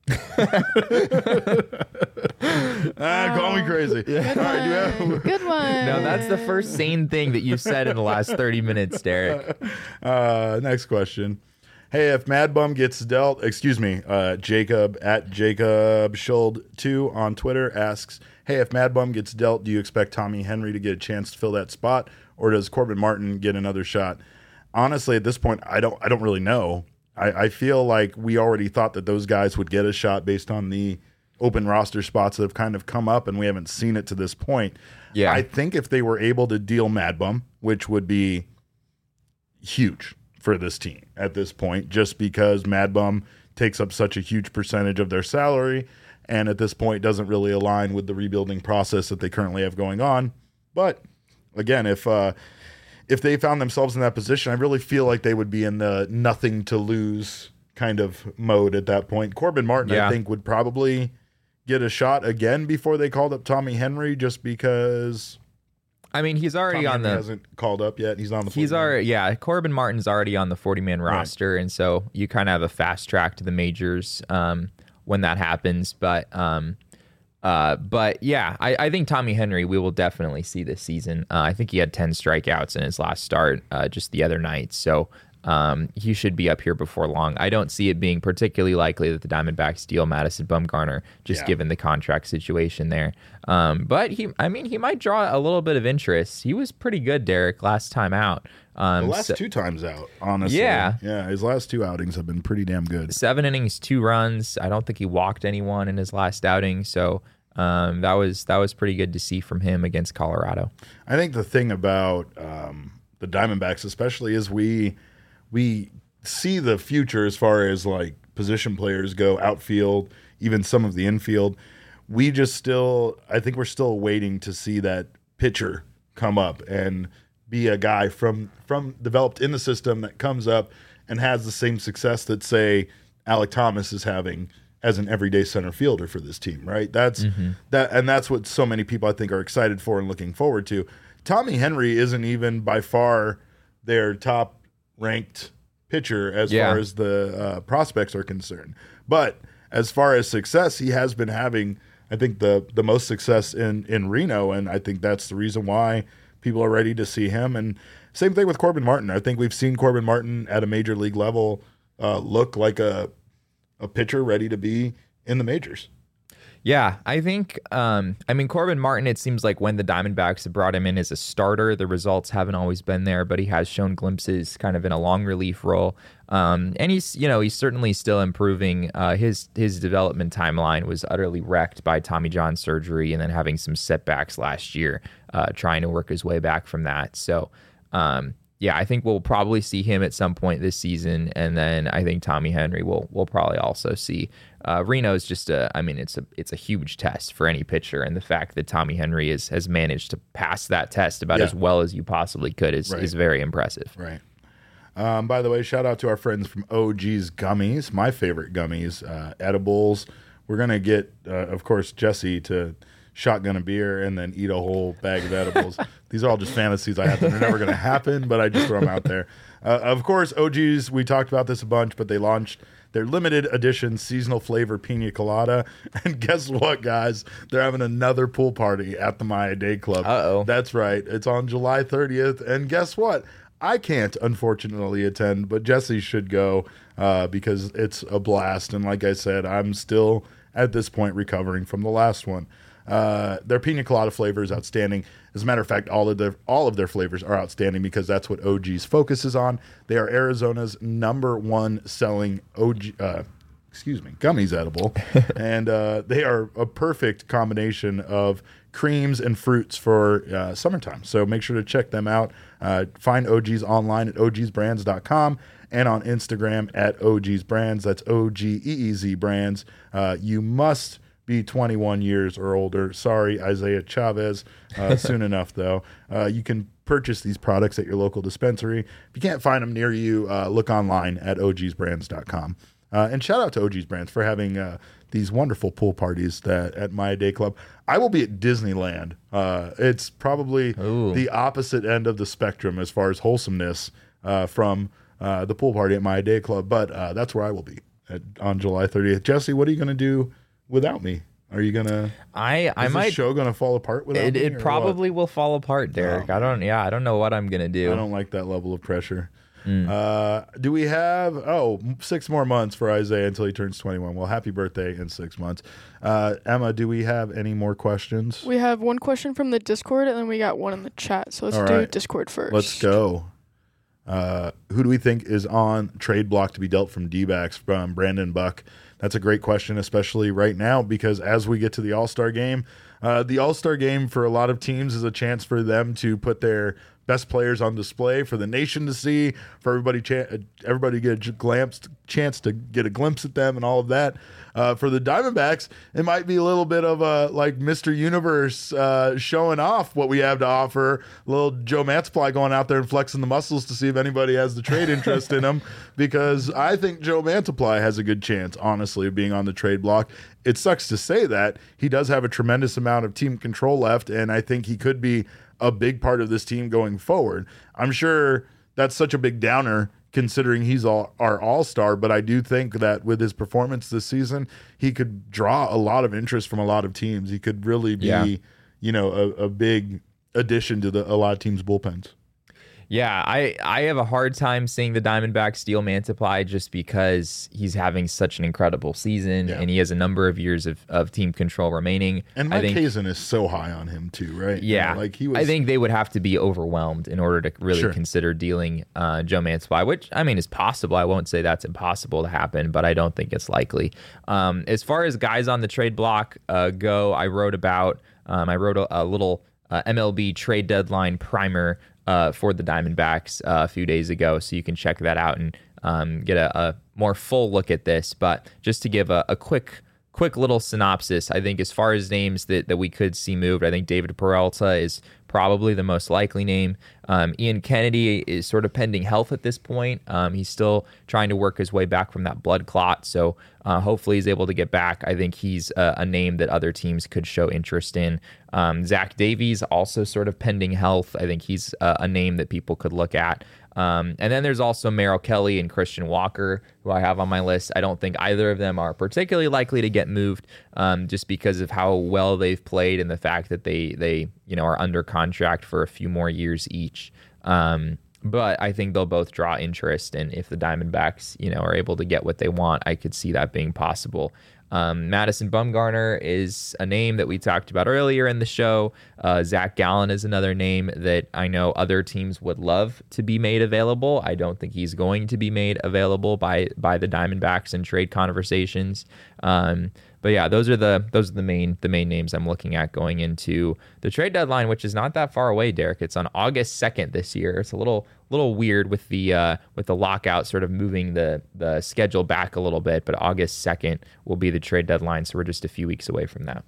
ah, call me crazy. Good All right, do you have- one. Good one. No, that's the first sane thing that you've said in the last thirty minutes, Derek. Uh, next question. Hey, if Mad Bum gets dealt, excuse me, uh, Jacob at Jacob Schuld two on Twitter asks, hey, if Mad Bum gets dealt, do you expect Tommy Henry to get a chance to fill that spot, or does Corbin Martin get another shot? Honestly, at this point, I don't, I don't really know. I, I feel like we already thought that those guys would get a shot based on the open roster spots that have kind of come up, and we haven't seen it to this point. Yeah. I think if they were able to deal Mad Bum, which would be huge for this team at this point, just because Mad Bum takes up such a huge percentage of their salary, and at this point doesn't really align with the rebuilding process that they currently have going on. But again, if uh, if they found themselves in that position, I really feel like they would be in the nothing to lose kind of mode at that point. Corbin Martin, Yeah. I think, would probably get a shot again before they called up Tommy Henry, just because I mean, he's already Tommy on Henry the hasn't called up yet. He's on the He's forty-man. already, yeah. Corbin Martin's already on the forty-man roster, and so you kind of have a fast track to the majors um, when that happens. But, um, uh, but yeah, I, I think Tommy Henry we will definitely see this season. Uh, I think he had ten strikeouts in his last start uh, just the other night, so um, he should be up here before long. I don't see it being particularly likely that the Diamondbacks deal Madison Bumgarner, just Yeah. given the contract situation there. Um, but he, I mean, he might draw a little bit of interest. He was pretty good, Derek, last time out. Um, The last so- two times out, honestly. Yeah. Yeah, his last two outings have been pretty damn good. seven innings, two runs. I don't think he walked anyone in his last outing, so um, that was that was pretty good to see from him against Colorado. I think the thing about um, the Diamondbacks, especially, is we we see the future as far as like position players go, outfield, even some of the infield. We just still, I think we're still waiting to see that pitcher come up and be a guy from from developed in the system that comes up and has the same success that, say, Alec Thomas is having as an everyday center fielder for this team, right? That's Mm-hmm. that, and that's what so many people I think are excited for and looking forward to. Tommy Henry isn't even by far their top ranked pitcher as Yeah. far as the uh, prospects are concerned, but as far as success, he has been having, I think, the the most success in in Reno, and I think that's the reason why people are ready to see him. And same thing with Corbin Martin. I think we've seen Corbin Martin at a major league level uh, look like a a pitcher ready to be in the majors. Yeah, I think, um, I mean, Corbin Martin, it seems like when the Diamondbacks have brought him in as a starter, the results haven't always been there, but he has shown glimpses kind of in a long relief role. Um, and he's, you know, he's certainly still improving. Uh, his his development timeline was utterly wrecked by Tommy John surgery and then having some setbacks last year, uh, trying to work his way back from that. So, um, yeah, I think we'll probably see him at some point this season, and then I think Tommy Henry will we'll probably also see. Uh, Reno's just a, I mean, it's a it's a huge test for any pitcher, and the fact that Tommy Henry is, has managed to pass that test about Yeah. as well as you possibly could is Right. is very impressive. Right. Um, by the way, shout out to our friends from O G's Gummies, my favorite gummies, uh, edibles. We're going to get, uh, of course, Jesse to shotgun a beer and then eat a whole bag of edibles. These are all just fantasies I have that are never going to happen, but I just throw them out there. Uh, of course, O G's, we talked about this a bunch, but they launched their limited edition seasonal flavor pina colada. And guess what, guys? They're having another pool party at the Maya Day Club. Uh-oh. That's right. It's on July thirtieth. And guess what? I can't, unfortunately, attend, but Jesse should go uh, because it's a blast. And like I said, I'm still, at this point, recovering from the last one. Uh, their pina colada flavor is outstanding. As a matter of fact, all of their all of their flavors are outstanding because that's what O G's focuses on. They are Arizona's number one selling O G, uh, excuse me, gummies edible, and uh, they are a perfect combination of creams and fruits for uh, summertime. So make sure to check them out. Uh, find O G's online at o gs brands dot com and on Instagram at O G's Brands. That's O G E E Z Brands. Uh, you must be twenty-one years or older. Sorry, Isaiah Chavez. Uh, soon enough, though. Uh, you can purchase these products at your local dispensary. If you can't find them near you, uh, look online at o gs brands dot com. Uh, and shout out to O G's Brands for having uh, these wonderful pool parties that at My Day Club. I will be at Disneyland. Uh, it's probably Ooh. the opposite end of the spectrum as far as wholesomeness uh, from uh, the pool party at My Day Club, but uh, that's where I will be at, on July thirtieth. Jesse, what are you going to do without me? Are you going to... I, I Is might... this show going to fall apart without It, me? it or probably will fall apart, Derek. Oh, I don't... Yeah, I don't know what I'm going to do. what? I don't like that level of pressure. Uh, do we have, oh, six more months for Isaiah until he turns twenty-one. Well, happy birthday in six months. Uh, Emma, do we have any more questions? We have one question from the Discord, and then we got one in the chat. So let's All do right. Discord first. Let's go. Uh, who do we think is on trade block to be dealt from D-backs from Brandon Buck? That's a great question, especially right now, because as we get to the All-Star game, uh, the All-Star game for a lot of teams is a chance for them to put their best players on display for the nation to see, for everybody cha- everybody to get a glimpse, chance to get a glimpse at them and all of that. Uh, for the Diamondbacks, it might be a little bit of a like Mister Universe uh, showing off what we have to offer. A little Joe Mantiply going out there and flexing the muscles to see if anybody has the trade interest in him, because I think Joe Mantiply has a good chance, honestly, of being on the trade block. It sucks to say that. He does have a tremendous amount of team control left, and I think he could be a big part of this team going forward. I'm sure that's such a big downer considering he's all, our all-star, but I do think that with his performance this season, he could draw a lot of interest from a lot of teams. He could really be, Yeah. you know, a, a big addition to the, a lot of teams' bullpens. Yeah, I, I have a hard time seeing the Diamondbacks steal Mantiply just because he's having such an incredible season Yeah. and he has a number of years of, of team control remaining. And I Mike think, Hazen is so high on him too, right? You Yeah, know, like he was. I think they would have to be overwhelmed in order to really Sure. consider dealing uh, Joe Mantiply, which, I mean, is possible. I won't say that's impossible to happen, but I don't think it's likely. Um, as far as guys on the trade block uh, go, I wrote about, um, I wrote a, a little uh, M L B trade deadline primer uh, for the Diamondbacks uh, a few days ago, so you can check that out and um, get a, a more full look at this. But just to give a, a quick quick little synopsis, I think as far as names that, that we could see moved, I think David Peralta is probably the most likely name. Um, Ian Kennedy is sort of pending health at this point. Um, he's still trying to work his way back from that blood clot, so uh, hopefully he's able to get back. I think he's a, a name that other teams could show interest in. Um, Zach Davies, also sort of pending health. I think he's a, a name that people could look at. Um, and then there's also Merrill Kelly and Christian Walker, who I have on my list. I don't think either of them are particularly likely to get moved, um, just because of how well they've played and the fact that they they you know are under contract for a few more years each. Um, but I think they'll both draw interest, and if the Diamondbacks you know are able to get what they want, I could see that being possible. Um, Madison Bumgarner is a name that we talked about earlier in the show. Uh, Zach Gallen is another name that I know other teams would love to be made available. I don't think he's going to be made available by by the Diamondbacks in trade conversations. Um, but yeah, those are the those are the main the main names I'm looking at going into the trade deadline, which is not that far away, Derek. It's on August second this year. It's a little little weird with the uh, with the lockout sort of moving the the schedule back a little bit, but August second will be the trade deadline, so we're just a few weeks away from that.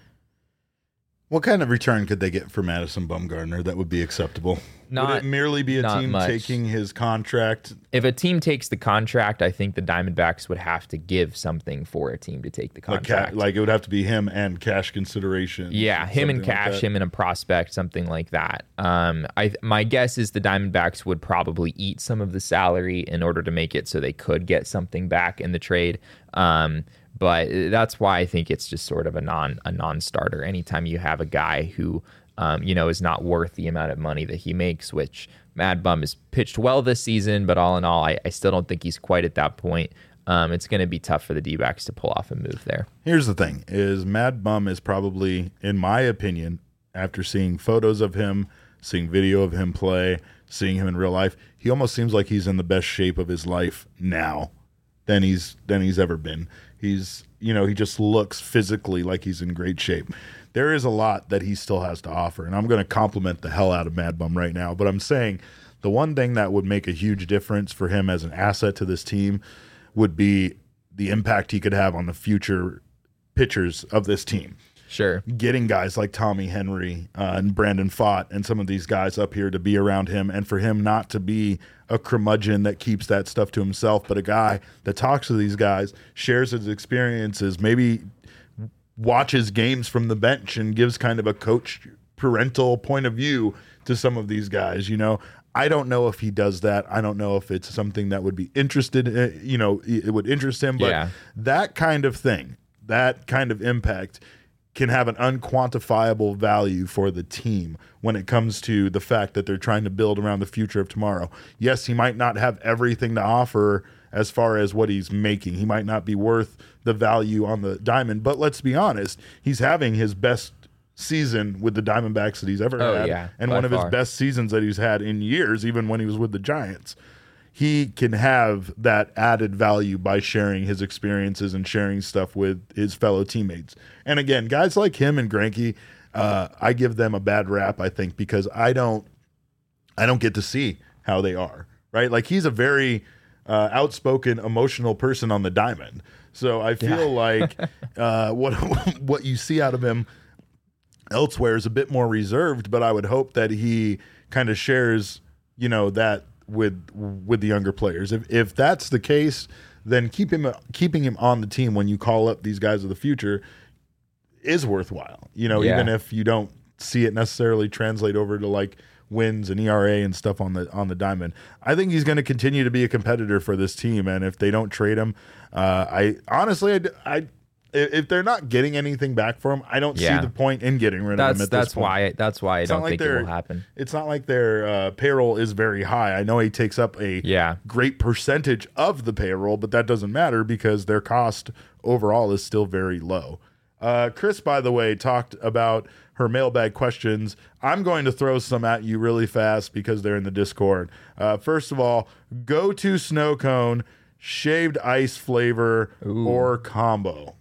What kind of return could they get for Madison Bumgarner that would be acceptable? Not- would it merely be a not team much. taking his contract? If a team takes the contract, I think the Diamondbacks would have to give something for a team to take the Like, ca- contract. like it would have to be him and cash consideration. Yeah, him and something like cash, that. him and a prospect, something like that. Um, I my guess is the Diamondbacks would probably eat some of the salary in order to make it so they could get something back in the trade. Um, but that's why I think it's just sort of a non a non-starter. Anytime you have a guy who um, you know is not worth the amount of money that he makes, which Mad Bum has pitched well this season, but all in all, I, I still don't think he's quite at that point. Um, it's going to be tough for the D-backs to pull off a move there. Here's the thing: is Mad Bum is probably, in my opinion, after seeing photos of him, seeing video of him play, seeing him in real life, he almost seems like he's in the best shape of his life now than he's than he's ever been. He's, you know, he just looks physically like he's in great shape. There is a lot that he still has to offer, and I'm going to compliment the hell out of Mad Bum right now. But I'm saying the one thing that would make a huge difference for him as an asset to this team would be the impact he could have on the future pitchers of this team. Sure. getting guys like Tommy Henry uh, and Brandon Fott and some of these guys up here to be around him, and for him not to be a curmudgeon that keeps that stuff to himself, but a guy that talks to these guys, shares his experiences, maybe watches games from the bench and gives kind of a coach parental point of view to some of these guys. You know, I don't know if he does that. I don't know if it's something that would be interested in, you know, it would interest him, but Yeah. that kind of thing, that kind of impact can have an unquantifiable value for the team when it comes to the fact that they're trying to build around the future of tomorrow. Yes, he might not have everything to offer as far as what he's making. He might not be worth the value on the diamond, but let's be honest, he's having his best season with the Diamondbacks that he's ever Oh, had, yeah, and by one of far. his best seasons that he's had in years, even when he was with the Giants. He can have that added value by sharing his experiences and sharing stuff with his fellow teammates. And again, guys like him and Greinke, uh, I give them a bad rap, I think, because I don't, I don't get to see how they are, right? Like, he's a very uh, outspoken, emotional person on the diamond. So I feel Yeah. like uh, what what you see out of him elsewhere is a bit more reserved, but I would hope that he kind of shares, you know, that with with the younger players. If if that's the case, then keep him keeping him on the team when you call up these guys of the future is worthwhile. You know, Yeah. even if you don't see it necessarily translate over to like wins and E R A and stuff on the on the diamond. I think he's going to continue to be a competitor for this team, and if they don't trade him, uh, I honestly, I, I if they're not getting anything back for him, I don't Yeah. see the point in getting rid of That's him at that's this point. why that's why I It's not don't like think it they're- will happen. It's not like their uh, payroll is very high. I know he takes up a Yeah. great percentage of the payroll, but that doesn't matter because their cost overall is still very low. Uh, Chris, by the way, talked about her mailbag questions. I'm going to throw some at you really fast because they're in the Discord. Uh, first of all, go to snow cone, shaved ice flavor, Ooh. or combo.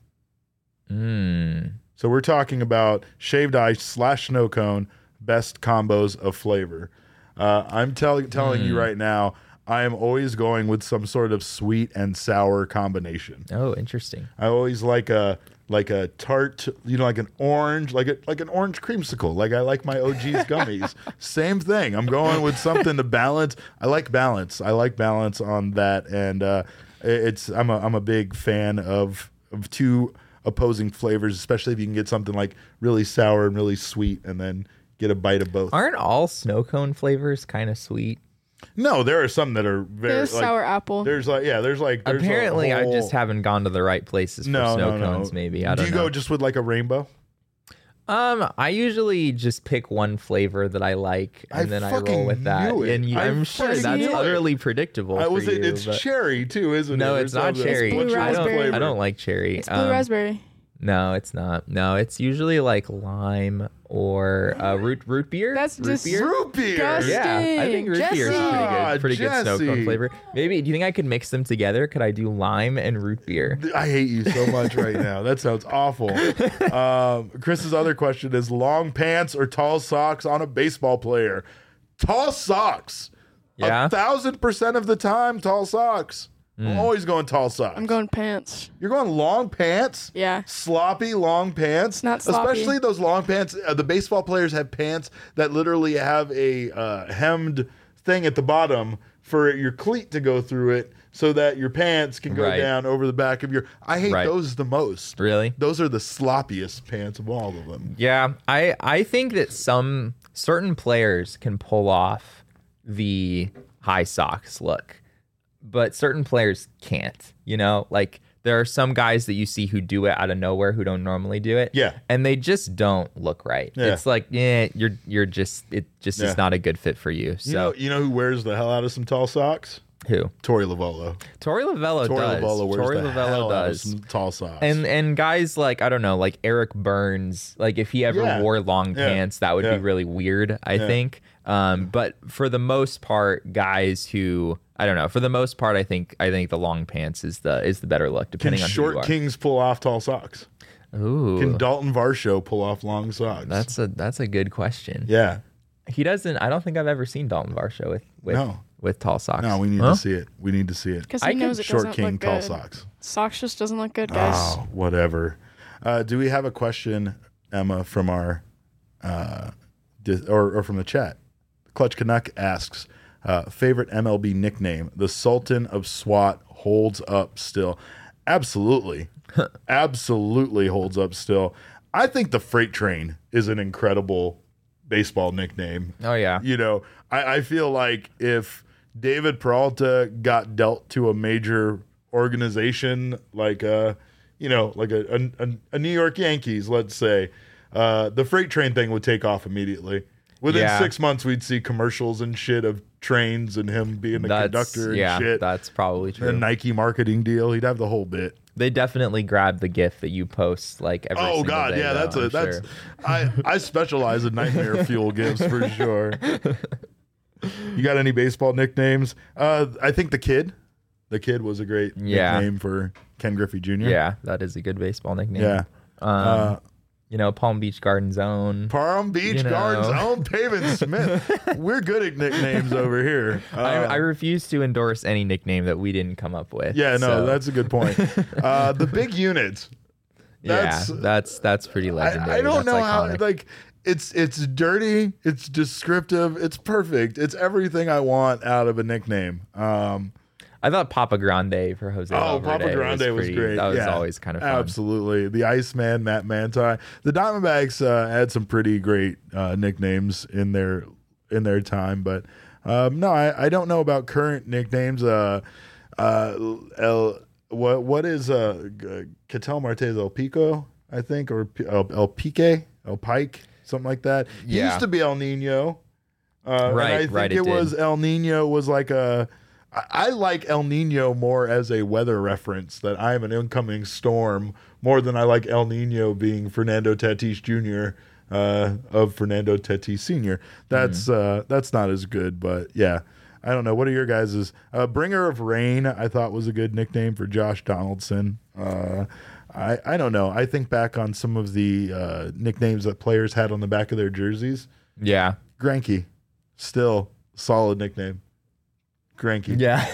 Mm. So we're talking about shaved ice slash snow cone, best combos of flavor. Uh, I'm telling telling you right now, I am always going with some sort of sweet and sour combination. Oh, interesting. I always like a like a tart, you know, like an orange, like a like an orange creamsicle. Like I like my O G's gummies. Same thing. I'm going with something to balance. I like balance. I like balance on that, and uh, it's I'm a I'm a big fan of of two opposing flavors, especially if you can get something like really sour and really sweet, and then get a bite of both. Aren't all snow cone flavors kind of sweet? No, there are some that are very There's like, sour apple. There's like yeah, there's like there's a Apparently, I whole- just haven't gone to the right places for no snow no cones. no. Maybe I Do don't you know. go just with like a rainbow? Um, I usually just pick one flavor that I like, and I then I fucking roll with that. knew it. And you, I I'm sure fucking that's knew it. utterly predictable. I for was you, it, it's but- cherry too, isn't it? No, Or it's not something? cherry. blue What's your I don't. raspberry. I don't like cherry. It's blue Um, raspberry. No, it's not. No, it's usually like lime or uh, root root beer. That's root just- beer. Root beer. Disgusting. Yeah, I think root beer is pretty Ah, good. Pretty good snow Jesse. cone flavor. Maybe. Do you think I could mix them together? Could I do lime and root beer? I hate you so much right now. That sounds awful. Um, Chris's other question is long pants or tall socks on a baseball player? Tall socks. Yeah? A thousand percent of the time, tall socks. Hmm. I'm always going tall socks. I'm going pants. You're going long pants? Yeah. Sloppy long pants? It's not sloppy. Especially those long pants. Uh, the baseball players have pants that literally have a uh, hemmed thing at the bottom for your cleat to go through it so that your pants can go Right. down over the back of your... I hate Right. those the most. Really? Those are the sloppiest pants of all of them. Yeah, I I think that some certain players can pull off the high socks look, but certain players can't. You know, like there are some guys that you see who do it out of nowhere who don't normally do it. Yeah. and they just don't look right. Yeah. It's like, yeah, you're you're just it just Yeah. is not a good fit for you. So You know, you know who wears the hell out of some tall socks? who? Tori Lavello. Tori Lavello Tori does. Lavello wears Tori the Lavello hell out of does. some tall socks. And and guys like I don't know, like Eric Burns, like if he ever Yeah. wore long Yeah. pants, that would Yeah. be really weird, I think. Um, but for the most part, guys who I don't know, for the most part, I think I think the long pants is the is the better look, can depending on who short you are. kings pull off tall socks? Ooh, Can Dalton Varsho pull off long socks? that's a that's a good question. yeah. He doesn't. I don't think I've ever seen Dalton Varsho with with No. with tall socks. No, we need Huh? to see it. We need to see it. Because I he knows it Short doesn't king, look tall good. socks. Socks just doesn't look good, guys. Oh, whatever. Uh, do we have a question Emma, from our uh, di- or, or from the chat. Clutch Canuck asks, uh, favorite M L B nickname? The Sultan of SWAT holds up still. Absolutely. Absolutely holds up still. I think the Freight Train is an incredible baseball nickname. Oh, yeah. You know, I, I feel like if David Peralta got dealt to a major organization like a, you know, like a, a, a New York Yankees, let's say, uh, the Freight Train thing would take off immediately. Within Yeah. six months, we'd see commercials and shit of trains and him being the That's, conductor and yeah, shit. that's probably true. A Nike marketing deal. He'd have the whole bit. They definitely grab the GIF that you post like every Oh single God, day, yeah, though, that's a I'm that's. sure. I I specialize in nightmare fuel gifts for sure. You got any baseball nicknames? Uh, I think the kid, the kid was a great Yeah. nickname for Ken Griffey Junior Yeah, that is a good baseball nickname. Yeah. Um, Uh, you know, Palm Beach Garden Zone. Palm Beach You know. Gardens own Pavin Smith. We're good at nicknames over here. Uh, I, I refuse to endorse any nickname that we didn't come up with. yeah, no, so, that's a good point. Uh, the big unit. That's, yeah, that's that's pretty legendary. I, I don't That's know how iconic. like it's it's dirty, it's descriptive, it's perfect. It's everything I want out of a nickname. Um, I thought Papa Grande for Jose. oh, Valverde Papa Grande was, pretty- great. That was Yeah, always kind of fun. Absolutely. The Iceman, Matt Manti. The Diamondbacks uh, had some pretty great uh, nicknames in their in their time, but um, no, I, I don't know about current nicknames. Uh, uh, El, what what is uh, Ketel Martez El Pico, I think, or P- El, El Pique, El Pike, something like that. He Yeah. used to be El Nino. Uh, Right, and I think right, it, it did. was El Nino was like a. I- I like El Nino more as a weather reference, that I am an incoming storm, more than I like El Nino being Fernando Tatis Junior Uh, of Fernando Tatis Senior That's Mm-hmm. uh, that's not as good, but yeah. I don't know. What are your guys's? Uh, Bringer of Rain, I thought was a good nickname for Josh Donaldson. Uh, I I don't know. I think back on some of the uh, nicknames that players had on the back of their jerseys. Yeah. Granky, still solid nickname. Granky. Yeah.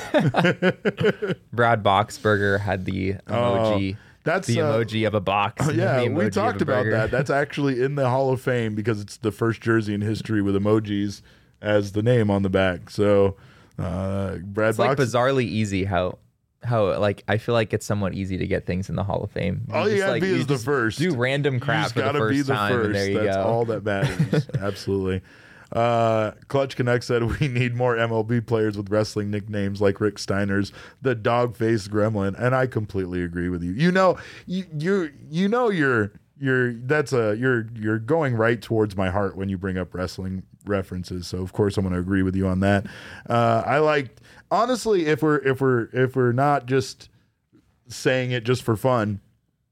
Brad Boxberger had the emoji. That's the uh, emoji of a box. and Yeah, the we emoji of talked a about burger. that. That's actually in the Hall of Fame because it's the first jersey in history with emojis as the name on the back. So, uh, Brad It's like Box. bizarrely easy how how like I feel like it's somewhat easy to get things in the Hall of Fame. All you just, gotta like, be you is the just first. Do random You crap just for the gotta first be the time, first. and there you That's go. all that matters. Absolutely. Uh, Clutch Connect said we need more M L B players with wrestling nicknames like Rick Steiner's the dog faced gremlin, and I completely agree with you. You know, you you you know you're you're that's a you're you're going right towards my heart when you bring up wrestling references. So of course I'm going to agree with you on that. Uh, I like honestly if we're if we're if we're not just saying it just for fun,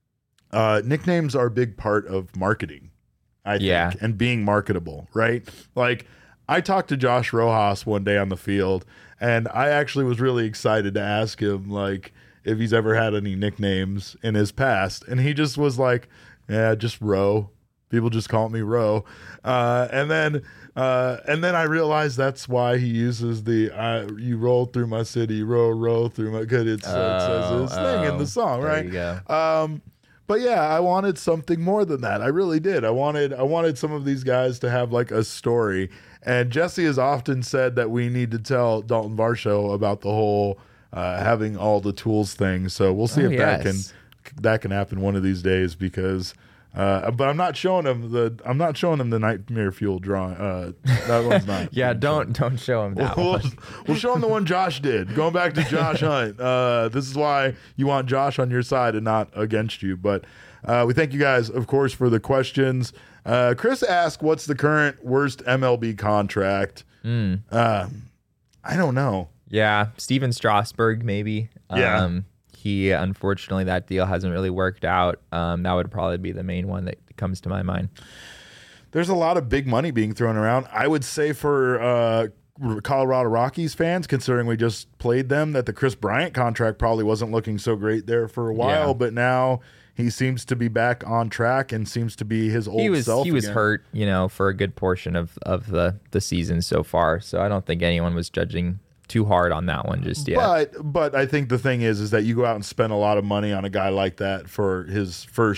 uh, nicknames are a big part of marketing. I think, Yeah. and being marketable, right? Like, I talked to Josh Rojas one day on the field, and I actually was really excited to ask him, like, if he's ever had any nicknames in his past. And he just was like, yeah, just Ro. People just call me Ro. Uh, and then uh, and then I realized that's why he uses the uh, you roll through my city, row, row through my, because it's, it says his Oh, thing in oh, the song, there right? you go. Um, but yeah, I wanted something more than that. I really did. I wanted I wanted some of these guys to have like a story. And Jesse has often said that we need to tell Dalton Varsho about the whole uh, having all the tools thing. So we'll see Oh, if that can yes. that can happen one of these days because. Uh, but I'm not showing him the I'm not showing him the Nightmare Fuel drawing. Uh, that one's not. Yeah, don't don't show him that We'll, one. we'll show him the one Josh did. Going back to Josh Hunt. Uh, this is why you want Josh on your side and not against you. But uh, we thank you guys, of course, for the questions. Uh, Chris asked, what's the current worst M L B contract? Mm. Uh, I don't know. Yeah, Steven Strasburg maybe. Yeah. Um, he unfortunately that deal hasn't really worked out. Um, that would probably be the main one that comes to my mind. There's a lot of big money being thrown around. I would say for uh, Colorado Rockies fans, considering we just played them, that the Chris Bryant contract probably wasn't looking so great there for a while, Yeah. but now he seems to be back on track and seems to be his old He was self he was again. hurt, you know, for a good portion of of the the season so far. So I don't think anyone was judging too hard on that one just yet. But but I think the thing is is that you go out and spend a lot of money on a guy like that for his first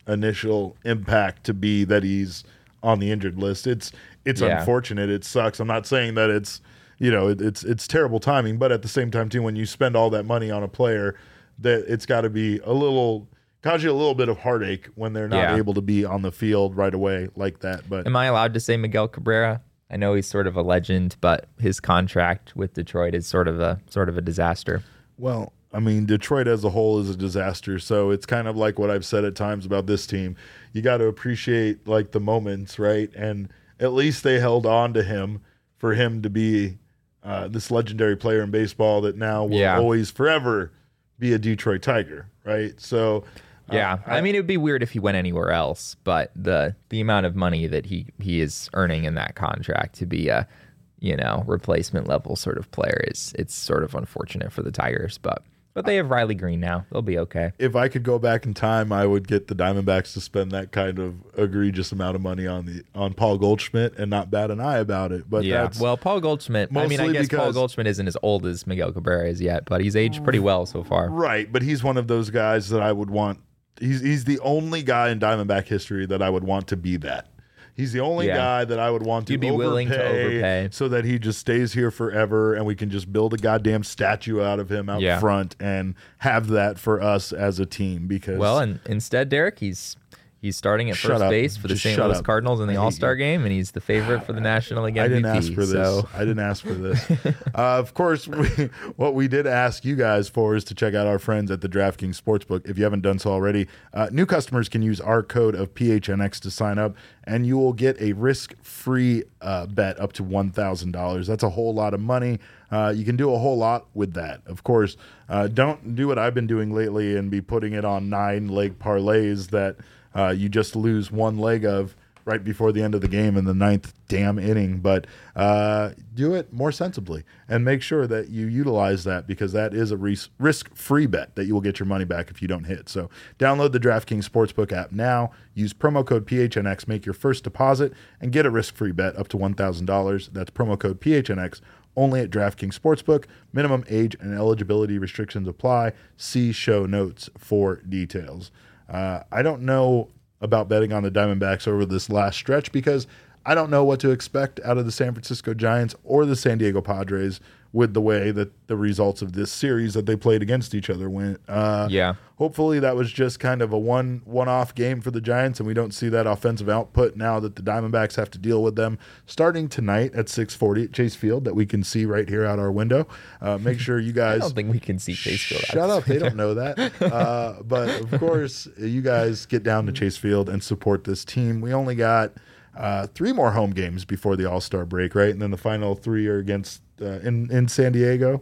initial impact to be that he's on the injured list. It's it's Yeah. unfortunate. It sucks. I'm not saying that it's you know it, it's it's terrible timing, but at the same time too, when you spend all that money on a player, that it's got to be a little cause you a little bit of heartache when they're not Yeah. able to be on the field right away like that. But Am I allowed to say Miguel Cabrera? I know he's sort of a legend, but his contract with Detroit is sort of a sort of a disaster. well, I mean, Detroit as a whole is a disaster. So it's kind of like what I've said at times about this team. You got to appreciate like the moments, right? And at least they held on to him for him to be uh, this legendary player in baseball that now will Yeah. always forever be a Detroit Tiger, right? So uh, Yeah, I, mean, it would be weird if he went anywhere else, but the the amount of money that he he is earning in that contract to be a you know replacement level sort of player is it's sort of unfortunate for the Tigers, but but they have Riley Green now; they'll be okay. if I could go back in time, I would get the Diamondbacks to spend that kind of egregious amount of money on the on Paul Goldschmidt and not bat an eye about it. But Yeah, that's well, Paul Goldschmidt. I mean, I mostly guess Paul because- Goldschmidt isn't as old as Miguel Cabrera is yet, but he's aged pretty well so far. right. But he's one of those guys that I would want. He's he's the only guy in Diamondback history that I would want to be that. He's the only Yeah. guy that I would want to You'd be overpay willing to overpay. so that he just stays here forever and we can just build a goddamn statue out of him out Yeah. front and have that for us as a team. Because Well, and instead, Derek, he's he's starting at Shut first up. base for the Just Saint shut Louis up. Cardinals in the I hate All Star you. game, and he's the favorite for the National League I M V P. didn't ask for this. So I didn't ask for this. uh, of course, we, what we did ask you guys for is to check out our friends at the DraftKings Sportsbook. If you haven't done so already, uh, new customers can use our code of P H N X to sign up, and you will get a risk-free uh, bet up to one thousand dollars. That's a whole lot of money. Uh, you can do a whole lot with that. Of course, uh, don't do what I've been doing lately and be putting it on nine-leg parlays that uh, you just lose one leg of right before the end of the game in the ninth damn inning. But uh, do it more sensibly and make sure that you utilize that, because that is a ris- risk-free bet that you will get your money back if you don't hit. So download the DraftKings Sportsbook app now. Use promo code P H N X, make your first deposit, and get a risk-free bet up to one thousand dollars. That's promo code P H N X only at DraftKings Sportsbook. Minimum age and eligibility restrictions apply. See show notes for details. Uh, I don't know about betting on the Diamondbacks over this last stretch because I don't know what to expect out of the San Francisco Giants or the San Diego Padres with the way that the results of this series that they played against each other went. Uh, Yeah. Hopefully that was just kind of a one one-off game for the Giants, and we don't see that offensive output now that the Diamondbacks have to deal with them starting tonight at six forty at Chase Field that we can see right here out our window. Uh, make sure you I guys don't think we can see Chase Field. Shut up. They don't know that. Uh, but of course, you guys get down to Chase Field and support this team. We only got uh, three more home games before the All-Star break, right? And then the final three are against uh, in, in San Diego.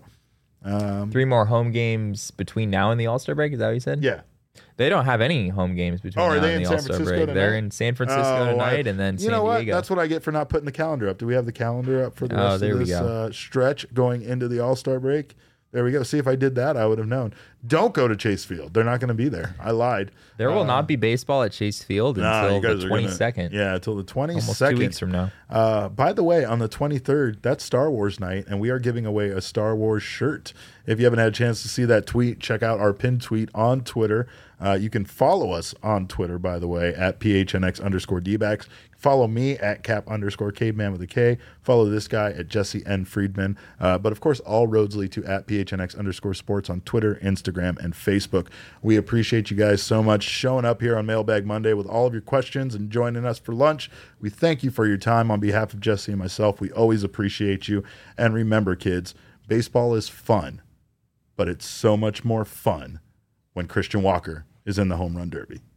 Um, Three more home games between now and the All Star break. Is that what you said? yeah. They don't have any home games between Oh, are now they and in the San All Star Francisco break. They're tonight? in San Francisco Oh, tonight, I- and then you San know what? Diego. That's what I get for not putting the calendar up. Do we have the calendar up for the Oh, rest there of we this go. uh, stretch going into the All-Star break? There we go. See, if I did that, I would have known. Don't go to Chase Field. They're not going to be there. I lied. There will Uh, not be baseball at Chase Field nah, until you guys the are gonna- twenty-second. Yeah, until the twenty-second. Almost two weeks from now. Uh, by the way, on the twenty-third, that's Star Wars night, and we are giving away a Star Wars shirt. If you haven't had a chance to see that tweet, check out our pinned tweet on Twitter. Uh, you can follow us on Twitter, by the way, at P H N X underscore D-backs. Follow me at Cap underscore Caveman with a K. Follow this guy at Jesse N. Friedman. Uh, but, of course, all roads lead to at P H N X underscore sports on Twitter, Instagram, and Facebook. We appreciate you guys so much showing up here on Mailbag Monday with all of your questions and joining us for lunch. We thank you for your time. On behalf of Jesse and myself, we always appreciate you. And remember, kids, baseball is fun, but it's so much more fun when Christian Walker is in the home run derby.